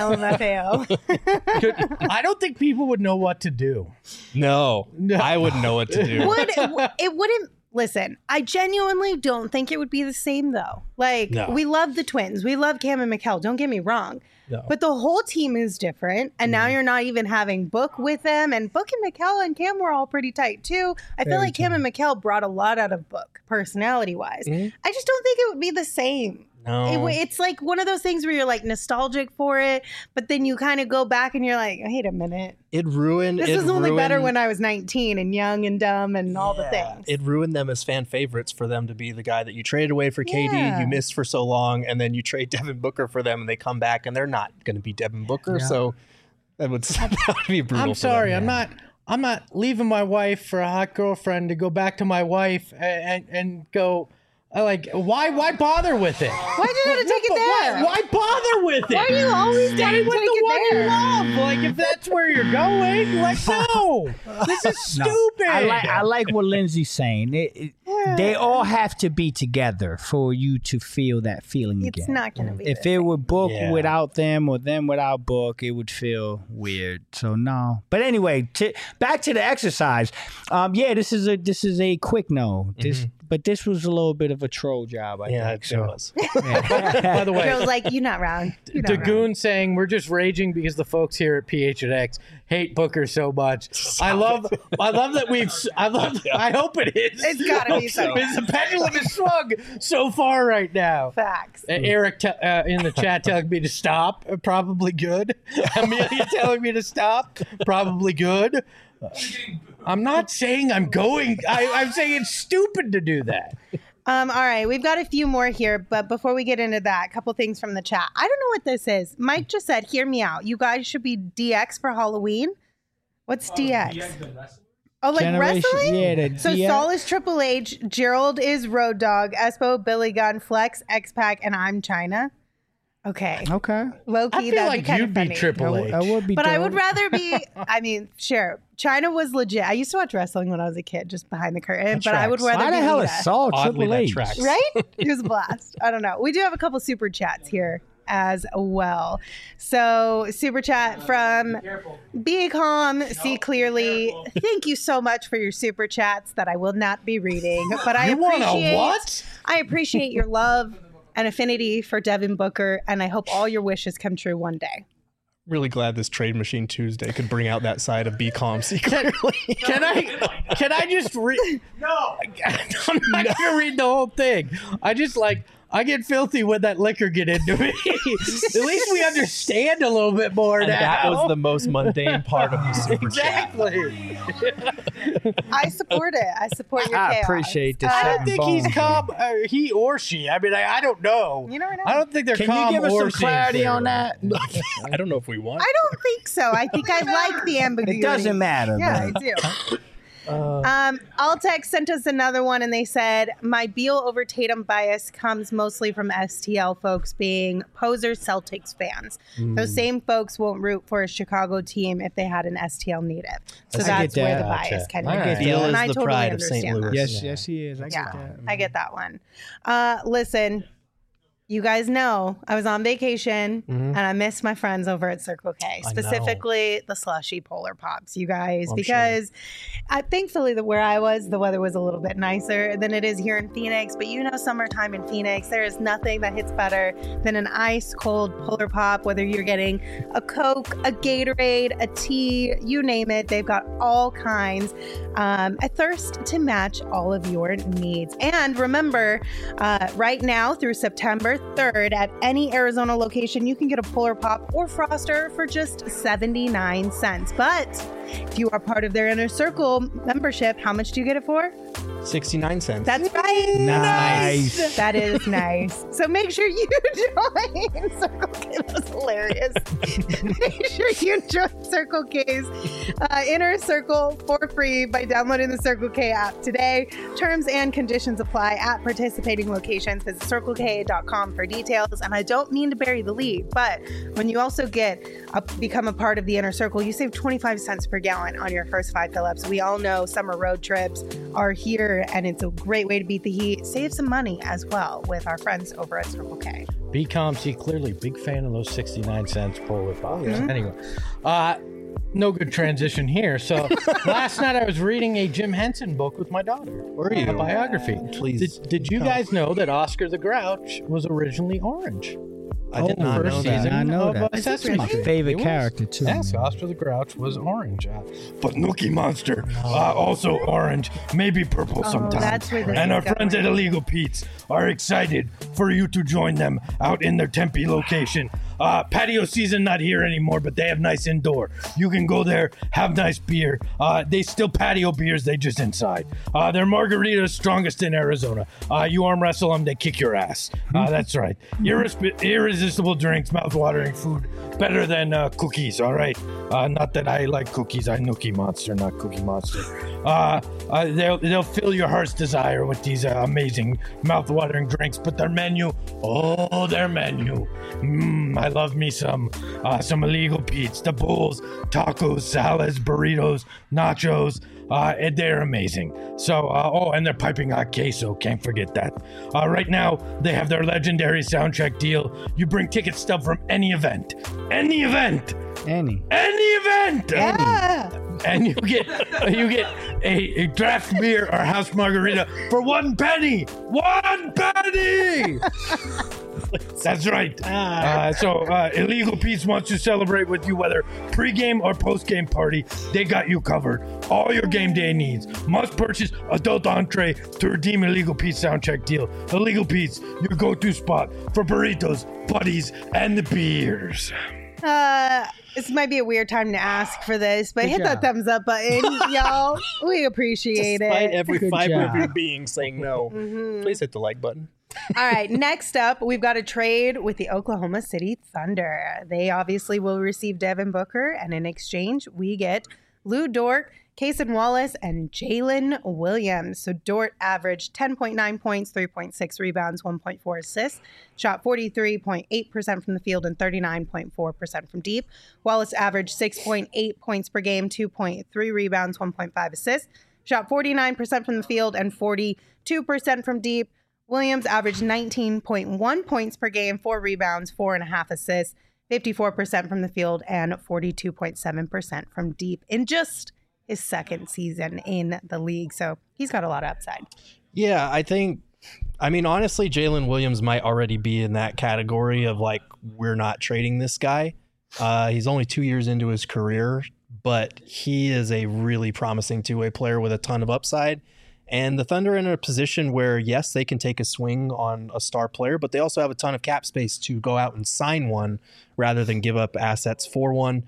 LMFAO. I don't think people would know what to do. No, I wouldn't know what to do. It wouldn't. Listen, I genuinely don't think it would be the same though. Like, we love the twins. We love Cam and Mikal. Don't get me wrong. No. But the whole team is different. And now you're not even having Book with them. And Book and Mikal and Cam were all pretty tight too. I feel like Cam and Mikal brought a lot out of Book, personality-wise. I just don't think it would be the same. No. It's like one of those things where you're like nostalgic for it, but then you kind of go back and you're like, wait a minute. This was only better when I was 19 and young and dumb and all the things. It ruined them as fan favorites for them to be the guy that you traded away for KD, you missed for so long, and then you trade Devin Booker for them and they come back and they're not going to be Devin Booker. So that would be brutal. I'm sorry. I'm not leaving my wife for a hot girlfriend to go back to my wife and go. Like, why bother with it? Why do you have to take it there? Why bother with it? Why are you always Stay wanting to with take the it one there? you love. Like, if that's where you're going, like, no. This is stupid. I like what Lindsay's saying. They all have to be together for you to feel that feeling again. It's not going to be. If the it same. were book Yeah. without them or them without book, it would feel weird. So no. But anyway, back to the exercise. This is a quick no. But this was a little bit of a troll job. I think. It was. By the way, Joe's like, you're not wrong. You're not wrong. Dagoon saying we're just raging because the folks here at PHNX hate Booker so much. I love that I hope it is. It's gotta be so. Because the pendulum is swung so far right now. Facts. Eric in the chat telling me to stop, probably good. Amelia telling me to stop, probably good. I'm not saying I'm going. I'm saying it's stupid to do that. All right, we've got a few more here, but before we get into that, a couple things from the chat. I don't know what this is. Mike just said, "Hear me out. You guys should be DX for Halloween." What's DX? Oh, like Generation- wrestling? yeah, the So DX. Saul is Triple H, Gerald is Road Dogg, Espo, Billy Gunn, Flex, X-Pac, and I'm China. Okay. Okay. Low-key, I feel that'd like be kind you'd of be funny. Triple H. I would be. But I dope. would rather be, I mean, sure. China was legit. I used to watch wrestling when I was a kid, just behind the curtain. But I would tracks. rather Why be the hell Lita. is Saul Oddly, Triple that H? tracks. Right? It was a blast. I don't know. We do have a couple super chats here as well. So, super chat from Be Calm, See Clearly. Thank you so much for your super chats that I will not be reading. But I You want a appreciate what? I appreciate your love and affinity for Devin Booker, and I hope all your wishes come true one day. Really glad this Trade Machine Tuesday could bring out that side of Be Calm secretly. Can I just read? No, I'm not gonna read the whole thing. I get filthy when that liquor get into me. At least we understand a little bit more And now. that was the most mundane part of the super chat. exactly. I support it. I support your I chaos. appreciate this. I don't Seven think he's bones. calm. He or she. I mean, I don't know. You never know. I don't think they're Can calm you give us or some clarity seeing on that? I don't know if we want. I don't think so. I think I like the ambiguity. It doesn't matter. Yeah, man. I do. Altex sent us another one and they said, my Beal over Tatum bias comes mostly from STL folks being poser Celtics fans. Those same folks won't root for a Chicago team if they had an STL native. So I that's get where that. the bias Gotcha. kind of All comes right. in. Beal And is I the totally pride of St. understand that. Louis. Yes, he is. I get Yeah, that. I get that one. Listen, you guys know I was on vacation and I missed my friends over at Circle K, I know. specifically the slushy Polar Pops, you guys, I'm because thankfully where I was, the weather was a little bit nicer than it is here in Phoenix. But you know, summertime in Phoenix, there is nothing that hits better than an ice cold Polar Pop, whether you're getting a Coke, a Gatorade, a tea, you name it. They've got all kinds. A thirst to match all of your needs. And remember, right now through September 3rd, at any Arizona location, you can get a Polar Pop or Froster for just 79 cents. But if you are part of their Inner Circle membership, how much do you get it for? 69 cents. That's right. Nice. That is nice. So make sure you join Circle K. That was hilarious. Make sure you join Circle K's Inner Circle for free by downloading the Circle K app today. Terms and conditions apply at participating locations. Visit CircleK.com for details. And I don't mean to bury the lead, but when you also become a part of the Inner Circle, you save 25 cents per gallon on your first 5 fill-ups. We all know summer road trips are here, and it's a great way to beat the heat. Save some money as well with our friends over at Circle K. Be calm, see clearly. Big fan of those 69 cents Polar Pops. Anyway, no good transition here. So last night I was reading a Jim Henson book with my daughter. Were you? A biography. Please. Did you guys know that Oscar the Grouch was originally orange? I did In the not first know season that. I know of that. Sesame My Street. favorite It was. character, too. Yes, Oscar the Grouch was orange. But Nookie Monster, also orange, maybe purple sometimes. that's where this And is our friends going. at Illegal Pete's are excited for you to join them out in their Tempe location. Patio season not here anymore, but they have nice indoor. You can go there, have nice beer. They still patio beers, they just inside. Their margaritas strongest in Arizona. You arm wrestle them, they kick your ass. That's right. Irresistible drinks, mouth-watering food, better than cookies, all right? Not that I like cookies, I Nookie Monster, not Cookie Monster. They'll fill your heart's desire with these amazing mouth-watering drinks, but their menu, I love me some Illegal Pete's, the bowls, tacos, salads, burritos, nachos. And they're amazing. So, and they're piping hot queso. Can't forget that. Right now, they have their legendary soundcheck deal. You bring ticket stub from any event. Any event. Any event. Yeah. And you get a draft beer or house margarita for 1 penny. 1 penny. That's right. So Illegal Pete's wants to celebrate with you, whether pre-game or post-game party. They got you covered. All your game day needs. Must purchase adult entree to redeem Illegal Pete's soundcheck deal. Illegal Pete's, your go-to spot for burritos, buddies, and the beers. This might be a weird time to ask for this, but Good hit that job. thumbs up button, y'all. We appreciate Despite it. every Good fiber job. of your being saying no, please hit the like button. All right, next up, we've got a trade with the Oklahoma City Thunder. They obviously will receive Devin Booker, and in exchange, we get Lou Dort, Cason Wallace, and Jalen Williams. So Dort averaged 10.9 points, 3.6 rebounds, 1.4 assists, shot 43.8% from the field and 39.4% from deep. Wallace averaged 6.8 points per game, 2.3 rebounds, 1.5 assists, shot 49% from the field and 42% from deep. Williams averaged 19.1 points per game, 4 rebounds, 4.5 assists, 54% from the field, and 42.7% from deep in just his second season in the league. So he's got a lot of upside. Yeah, honestly, Jalen Williams might already be in that category of like, we're not trading this guy. He's only 2 years into his career, but he is a really promising two-way player with a ton of upside. And the Thunder are in a position where, yes, they can take a swing on a star player, but they also have a ton of cap space to go out and sign one rather than give up assets for one.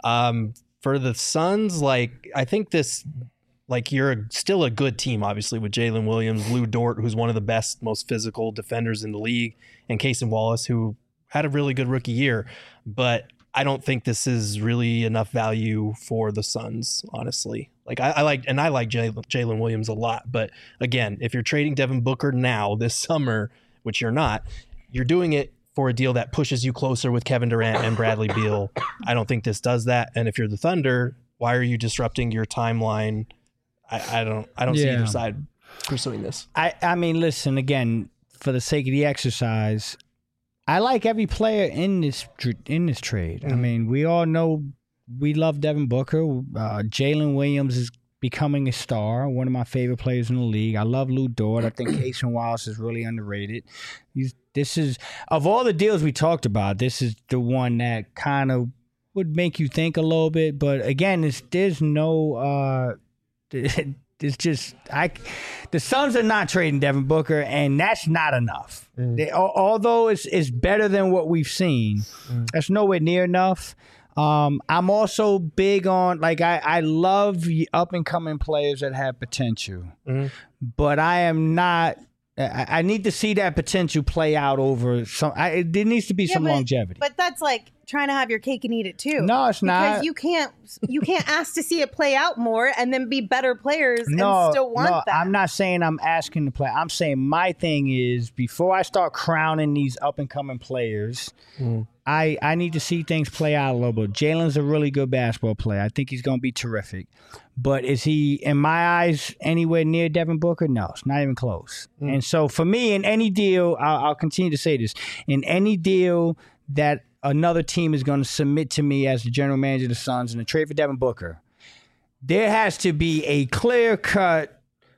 For the Suns, I think this, you're still a good team, obviously, with Jalen Williams, Lou Dort, who's one of the best, most physical defenders in the league, and Cason Wallace, who had a really good rookie year. But I don't think this is really enough value for the Suns, honestly. I like Jalen Williams a lot. But again, if you're trading Devin Booker now this summer, which you're not, you're doing it for a deal that pushes you closer with Kevin Durant and Bradley Beal. I don't think this does that. And if you're the Thunder, why are you disrupting your timeline? I don't see either side pursuing this. I mean, listen, again, for the sake of the exercise, I like every player in this trade. Mm-hmm. I mean, we all know we love Devin Booker. Jalen Williams is becoming a star, one of my favorite players in the league. I love Lou Dort. I think Cason Wallace is really underrated. This is, of all the deals we talked about, this is the one that kind of would make you think a little bit. But again, there's no... It's just the Suns are not trading Devin Booker, and that's not enough. Although it's better than what we've seen, that's nowhere near enough. I'm also big on I love up and coming players that have potential, but I am not. I need to see that potential play out over some. There needs to be some longevity. But that's like trying to have your cake and eat it too. No, it's not. Because you can't ask to see it play out more and then be better players and still want that. I'm not saying I'm asking to play. I'm saying my thing is before I start crowning these up and coming players, I need to see things play out a little bit. Jalen's a really good basketball player. I think he's going to be terrific. But is he, in my eyes, anywhere near Devin Booker? No, it's not even close. And so for me, in any deal, I'll continue to say this, in any deal that another team is going to submit to me as the general manager of the Suns in a trade for Devin Booker, there has to be a clear-cut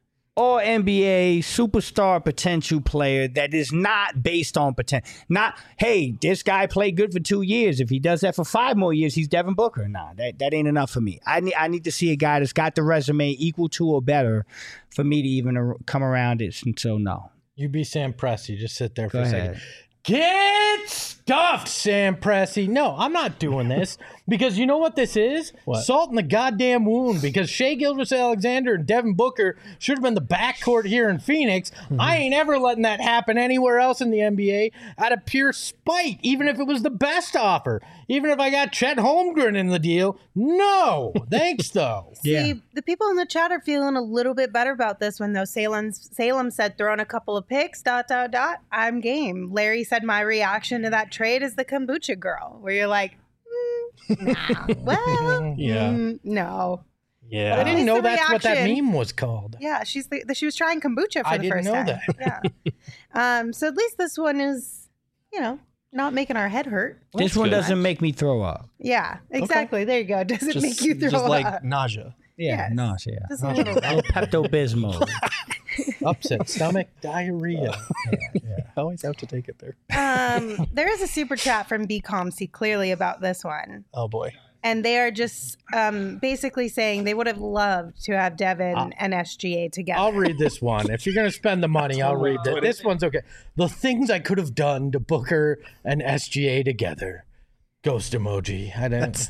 All-NBA superstar potential player that is not based on potential. Not, hey, this guy played good for 2 years. If he does that for 5 more years, he's Devin Booker. Nah, that ain't enough for me. I need to see a guy that's got the resume equal to or better for me to even come around it. And so, no. You be Sam Presti. Just sit there for Go a ahead. second. Get stuffed, Sam Presti. No, I'm not doing this because you know what this is? What? Salt in the goddamn wound because Shea Gilgeous-Alexander and Devin Booker should have been the backcourt here in Phoenix. I ain't ever letting that happen anywhere else in the NBA out of pure spite, even if it was the best offer. Even if I got Chet Holmgren in the deal. No, thanks, though. See, the people in the chat are feeling a little bit better about this one, though. Salem said, throwing a couple of picks, ... I'm game. Larry said, my reaction to that trade is the kombucha girl, where you're like, nah, well, Yeah. no. Yeah. I didn't least know the that's what that reaction- meme was called. Yeah, she was trying kombucha for I the didn't first know time. that. Yeah. So at least this one is, not making our head hurt. This one good. doesn't make me throw up. Yeah, exactly. There you go. Does it make you throw just like up? nausea. Yeah, Yes. nausea. Just a little bit. Pepto-Bismol. Upset stomach, diarrhea. I always have to take it there. There is a super chat from BComC clearly about this one. Oh boy. And they are just basically saying they would have loved to have Devin and SGA together. I'll read this one. If you're going to spend the money, I'll read this. This one's okay. The things I could have done to Booker and SGA together. Ghost emoji. I didn't.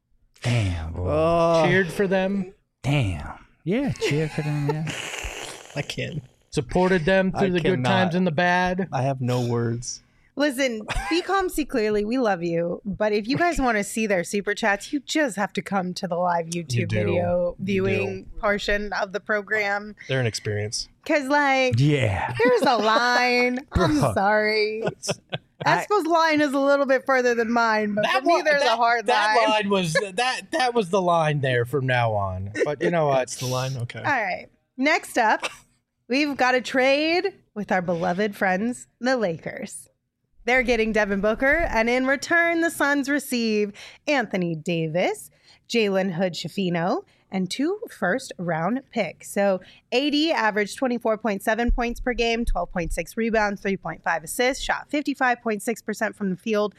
Damn, boy. Oh, Cheered for them. Damn. Yeah, cheer for them, yeah. I can't. Supported them through I the good cannot. times and the bad. I have no words. Listen, BComC clearly, we love you. But if you guys want to see their super chats, you just have to come to the live YouTube do. video You viewing portion of the program. They're an experience. Because, like, Yeah. here's a line. I'm Bro. sorry. Espo's line is a little bit further than mine, but for me, there's a hard that line. line was that was the line there from now on. But you know what? That's the line. Okay. All right. Next up, we've got a trade with our beloved friends, the Lakers. They're getting Devin Booker, and in return, the Suns receive Anthony Davis, Jalen Hood-Schifino, and 2 first-round picks. So AD averaged 24.7 points per game, 12.6 rebounds, 3.5 assists, shot 55.6% from the field,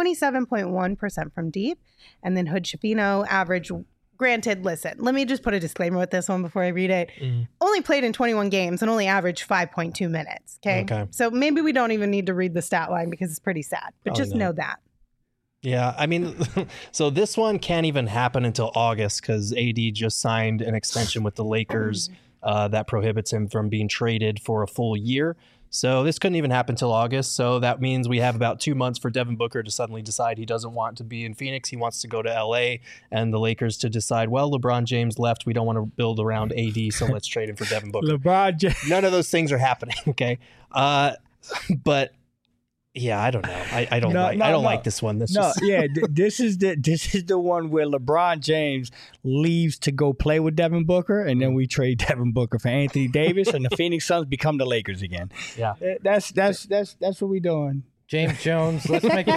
27.1% from deep. And then Hood-Schifino averaged, granted, listen, let me just put a disclaimer with this one before I read it. Only played in 21 games and only averaged 5.2 minutes. Okay. So maybe we don't even need to read the stat line because it's pretty sad, but just know that. Yeah, I mean, so this one can't even happen until August because AD just signed an extension with the Lakers that prohibits him from being traded for a full year. So this couldn't even happen until August. So that means we have about 2 months for Devin Booker to suddenly decide he doesn't want to be in Phoenix. He wants to go to LA, and the Lakers to decide, well, LeBron James left. We don't want to build around AD, so let's trade him for Devin Booker. LeBron James. None of those things are happening. Okay. But yeah, I don't know. I don't like this one. This No, yeah, this is the one where LeBron James leaves to go play with Devin Booker, and then we trade Devin Booker for Anthony Davis, and the Phoenix Suns become the Lakers again. Yeah. That's what we doing. James Jones,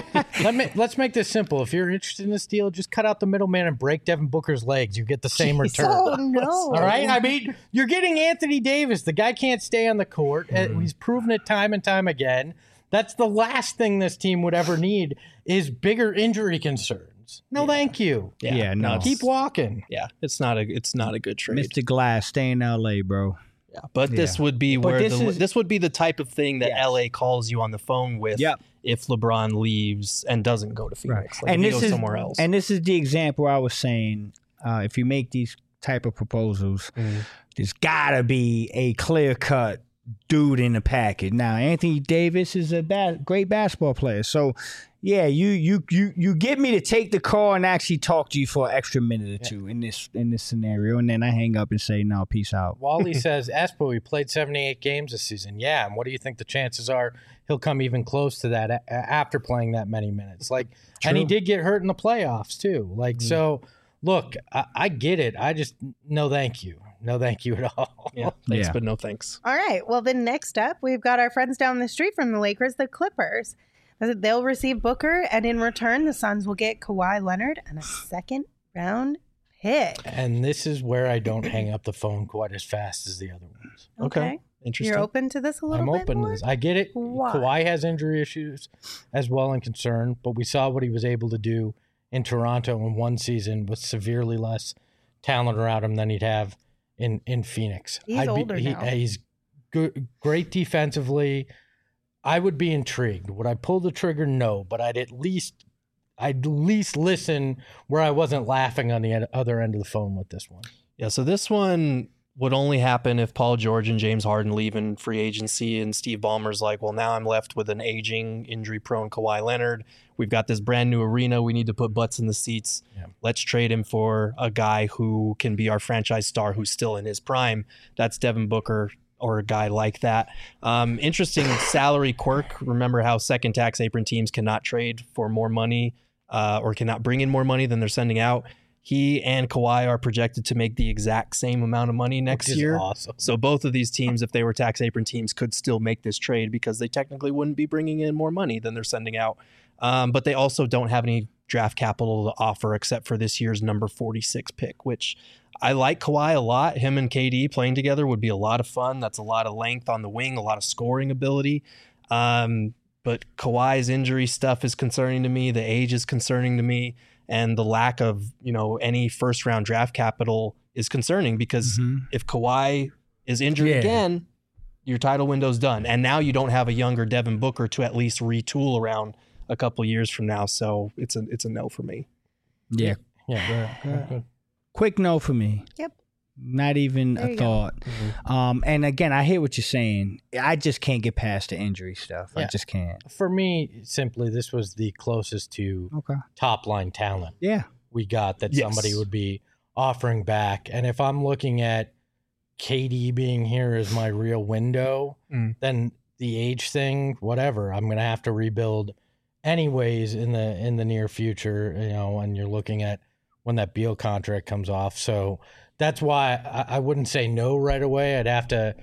let's make this simple. If you're interested in this deal, just cut out the middleman and break Devin Booker's legs. You get the same return. Oh, no. All right? I mean, you're getting Anthony Davis. The guy can't stay on the court. He's proven it time and time again. That's the last thing this team would ever need is bigger injury concerns. No, thank you. Yeah, no. Keep walking. Yeah, it's not a good trade. Mr. Glass, stay in L.A., bro. Yeah, but this would be But where this is- this would be the type of thing that Yes. LA calls you on the phone with Yep. if LeBron leaves and doesn't go to Phoenix. Like and if he this goes is somewhere else. And this is the example I was saying. If you make these type of proposals, there's gotta be a clear cut dude in the package. Now, Anthony Davis is a great basketball player, so yeah, you get me to take the call and actually talk to you for an extra minute or two in this scenario, and then I hang up and say no, peace out. Wally says, Espo, he played 78 games this season. Yeah, and what do you think the chances are he'll come even close to that after playing that many minutes? Like, and he did get hurt in the playoffs too. Like, so look, I get it. I just no thank you. No thank you at all. yeah, thanks, Yeah. but no thanks. All right. Well, then next up, we've got our friends down the street from the Lakers, the Clippers. They'll receive Booker, and in return, the Suns will get Kawhi Leonard and a second-round pick. And this is where I don't hang up the phone quite as fast as the other ones. Okay. Interesting. You're open to this a little I'm bit open more? to this. I get it. Why? Kawhi has injury issues as well and concern, but we saw what he was able to do in Toronto in one season with severely less talent around him than he'd have in Phoenix. He's older now. He's good, great defensively. I would be intrigued. Would I pull the trigger? No, but I'd at least listen where I wasn't laughing on the other end of the phone with this one. Yeah, so this one would only happen if Paul George and James Harden leave in free agency and Steve Ballmer's like, well, now I'm left with an aging, injury-prone Kawhi Leonard. We've got this brand new arena. We need to put butts in the seats. Yeah. Let's trade him for a guy who can be our franchise star who's still in his prime. That's Devin Booker or a guy like that. Interesting salary quirk. Remember how second tax apron teams cannot trade for more money or cannot bring in more money than they're sending out. He and Kawhi are projected to make the exact same amount of money next year. Awesome. So both of these teams, if they were tax apron teams, could still make this trade because they technically wouldn't be bringing in more money than they're sending out. But they also don't have any draft capital to offer except for this year's number 46 pick, which I like Kawhi a lot. Him and KD playing together would be a lot of fun. That's a lot of length on the wing, a lot of scoring ability. But Kawhi's injury stuff is concerning to me. The age is concerning to me. And the lack of, any first round draft capital is concerning because if Kawhi is injured again, your title window's done. And now you don't have a younger Devin Booker to at least retool around a couple years from now. So it's a no for me. Yeah. Quick no for me. Yep. Not even a thought. And again, I hear what you're saying. I just can't get past the injury stuff. I just can't. For me, simply, this was the closest to top line talent we got that somebody would be offering back. And if I'm looking at KD being here as my real window, then the age thing, whatever, I'm going to have to rebuild anyways in the near future, and you're looking at when that Beal contract comes off. So that's why I wouldn't say no right away. I'd have to,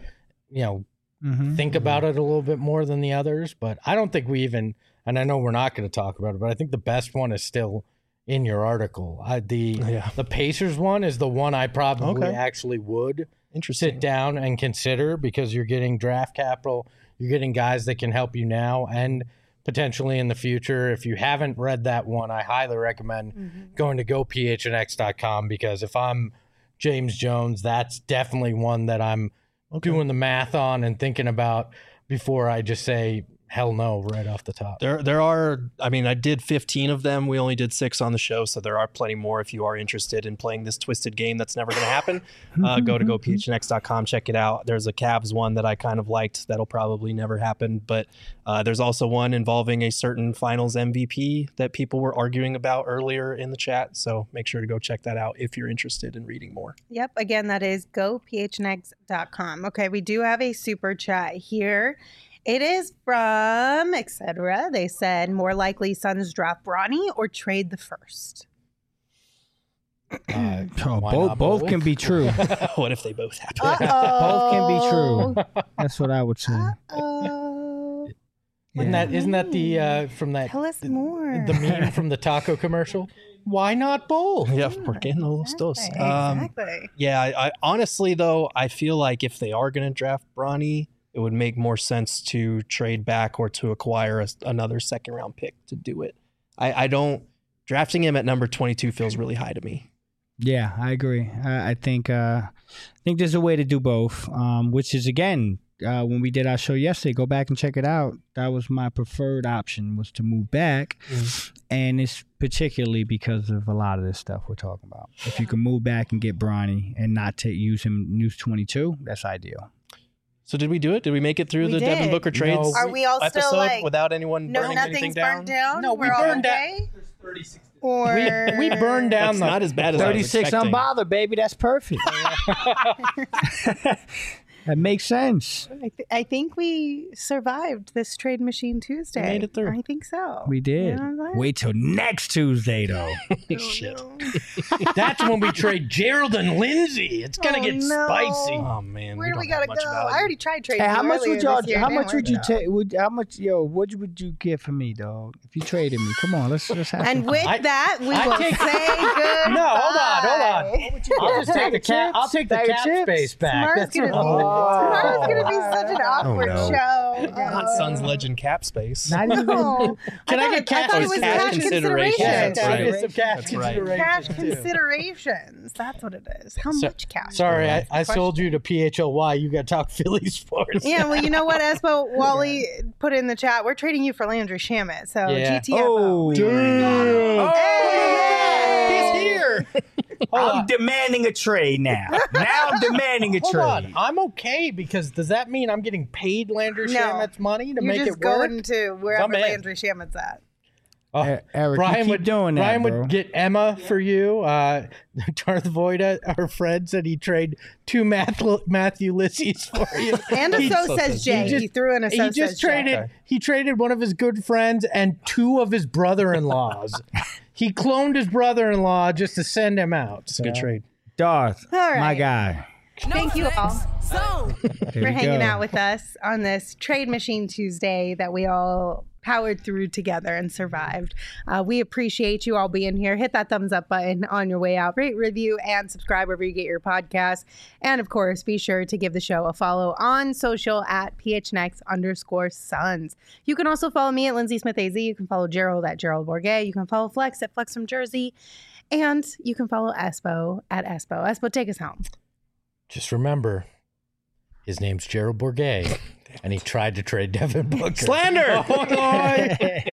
think about it a little bit more than the others. But I don't think we even, and I know we're not going to talk about it, but I think the best one is still in your article. The Pacers one is the one I probably actually would sit down and consider because you're getting draft capital. You're getting guys that can help you now and potentially in the future. If you haven't read that one, I highly recommend going to gophnx.com because if I'm James Jones, that's definitely one that I'm doing the math on and thinking about before I just say hell no right off the top. There are, I did 15 of them. We only did 6 on the show, so there are plenty more if you are interested in playing this twisted game that's never going to happen. Go to gophnx.com, check it out. There's a Cavs one that I kind of liked that'll probably never happen, but there's also one involving a certain finals MVP that people were arguing about earlier in the chat, so make sure to go check that out if you're interested in reading more. Yep, again, that is gophnx.com. Okay, we do have a super chat here. It is from etc. They said, more likely Suns draft Bronny or trade the first. Both can be true. What if they both happen? Both can be true. That's what I would say. Isn't that the from that? Tell us more. The meme from the taco commercial. Why not both? Yeah, porque no los dos. Exactly. I honestly though, I feel like if they are going to draft Bronny, it would make more sense to trade back or to acquire another second round pick to do it. I don't, drafting him at number 22 feels really high to me. Yeah, I agree. I think there's a way to do both, which is, again, when we did our show yesterday, go back and check it out. That was my preferred option, was to move back. And it's particularly because of a lot of this stuff we're talking about. If you can move back and get Bronny and not use him news 22, that's ideal. So did we do it? Did we make it through the Devin Booker trades? Are we all still like without anyone burning anything down? Burnt down? No, we burned down. Or we burned down. That's not as bad as 36 unbothered, baby. That's perfect. That makes sense. I think we survived this Trade Machine Tuesday. We made it through. I think so. We did. Wait till next Tuesday, though. Shit. No. That's when we trade Gerald and Lindsay. It's gonna get spicy. Oh man, Where do we gotta go? I already tried trading. Hey, how much would y'all? How much would you take? take? How much? What would you get for me, dog? If you traded me, come on, let's have. And with that, we will say good. No, hold on. I'll just take the cap. I'll take the cap space back. Tomorrow's gonna be such an awkward show. Not Suns legend cap space. Not even. Oh, Can I thought get it- cash? thought it Oh, was cash cash consideration. considerations. That's right. Get some cash That's right. consideration, Cash too. considerations. That's what it is. How much cash? Sorry, I Question. sold you to PHLY. You got to talk Philly sports. Yeah, well, you know what, Espo? Wally put in the chat. We're trading you for Landry Shamet. So Yeah. GTFO. He's here. I'm demanding a trade now. Now I'm demanding a Hold trade. on. I'm okay because does that mean I'm getting paid Landry No. Shamet's money to You're make just it work? going to wherever I'm in. Landry Shamet's at. Oh, Eric, Brian you keep would doing that, Brian bro. would get Emma for you. Darth Voida, our friend, said he'd trade 2 Matthew Lissies for you. And a so says says Jay. Jay. He threw in a so He just says Jay. traded. Okay. He traded one of his good friends and 2 of his brother-in-laws. He cloned his brother-in-law just to send him out. Good trade. Darth, All right. my guy. Thank you all There for you hanging go. out with us on this Trade Machine Tuesday that we all powered through together and survived. We appreciate you all being here. Hit that thumbs up button on your way out. Rate, review, and subscribe wherever you get your podcast. And of course, be sure to give the show a follow on social at PHNX_Suns. You can also follow me at Lindsay Smith AZ. You can follow Gerald at Gerald Bourget. You can follow Flex at Flex from Jersey. And you can follow Espo at Espo. Espo, take us home. Just remember, his name's Gerald Bourget, and he tried to trade Devin Booker. Slander. Oh, boy.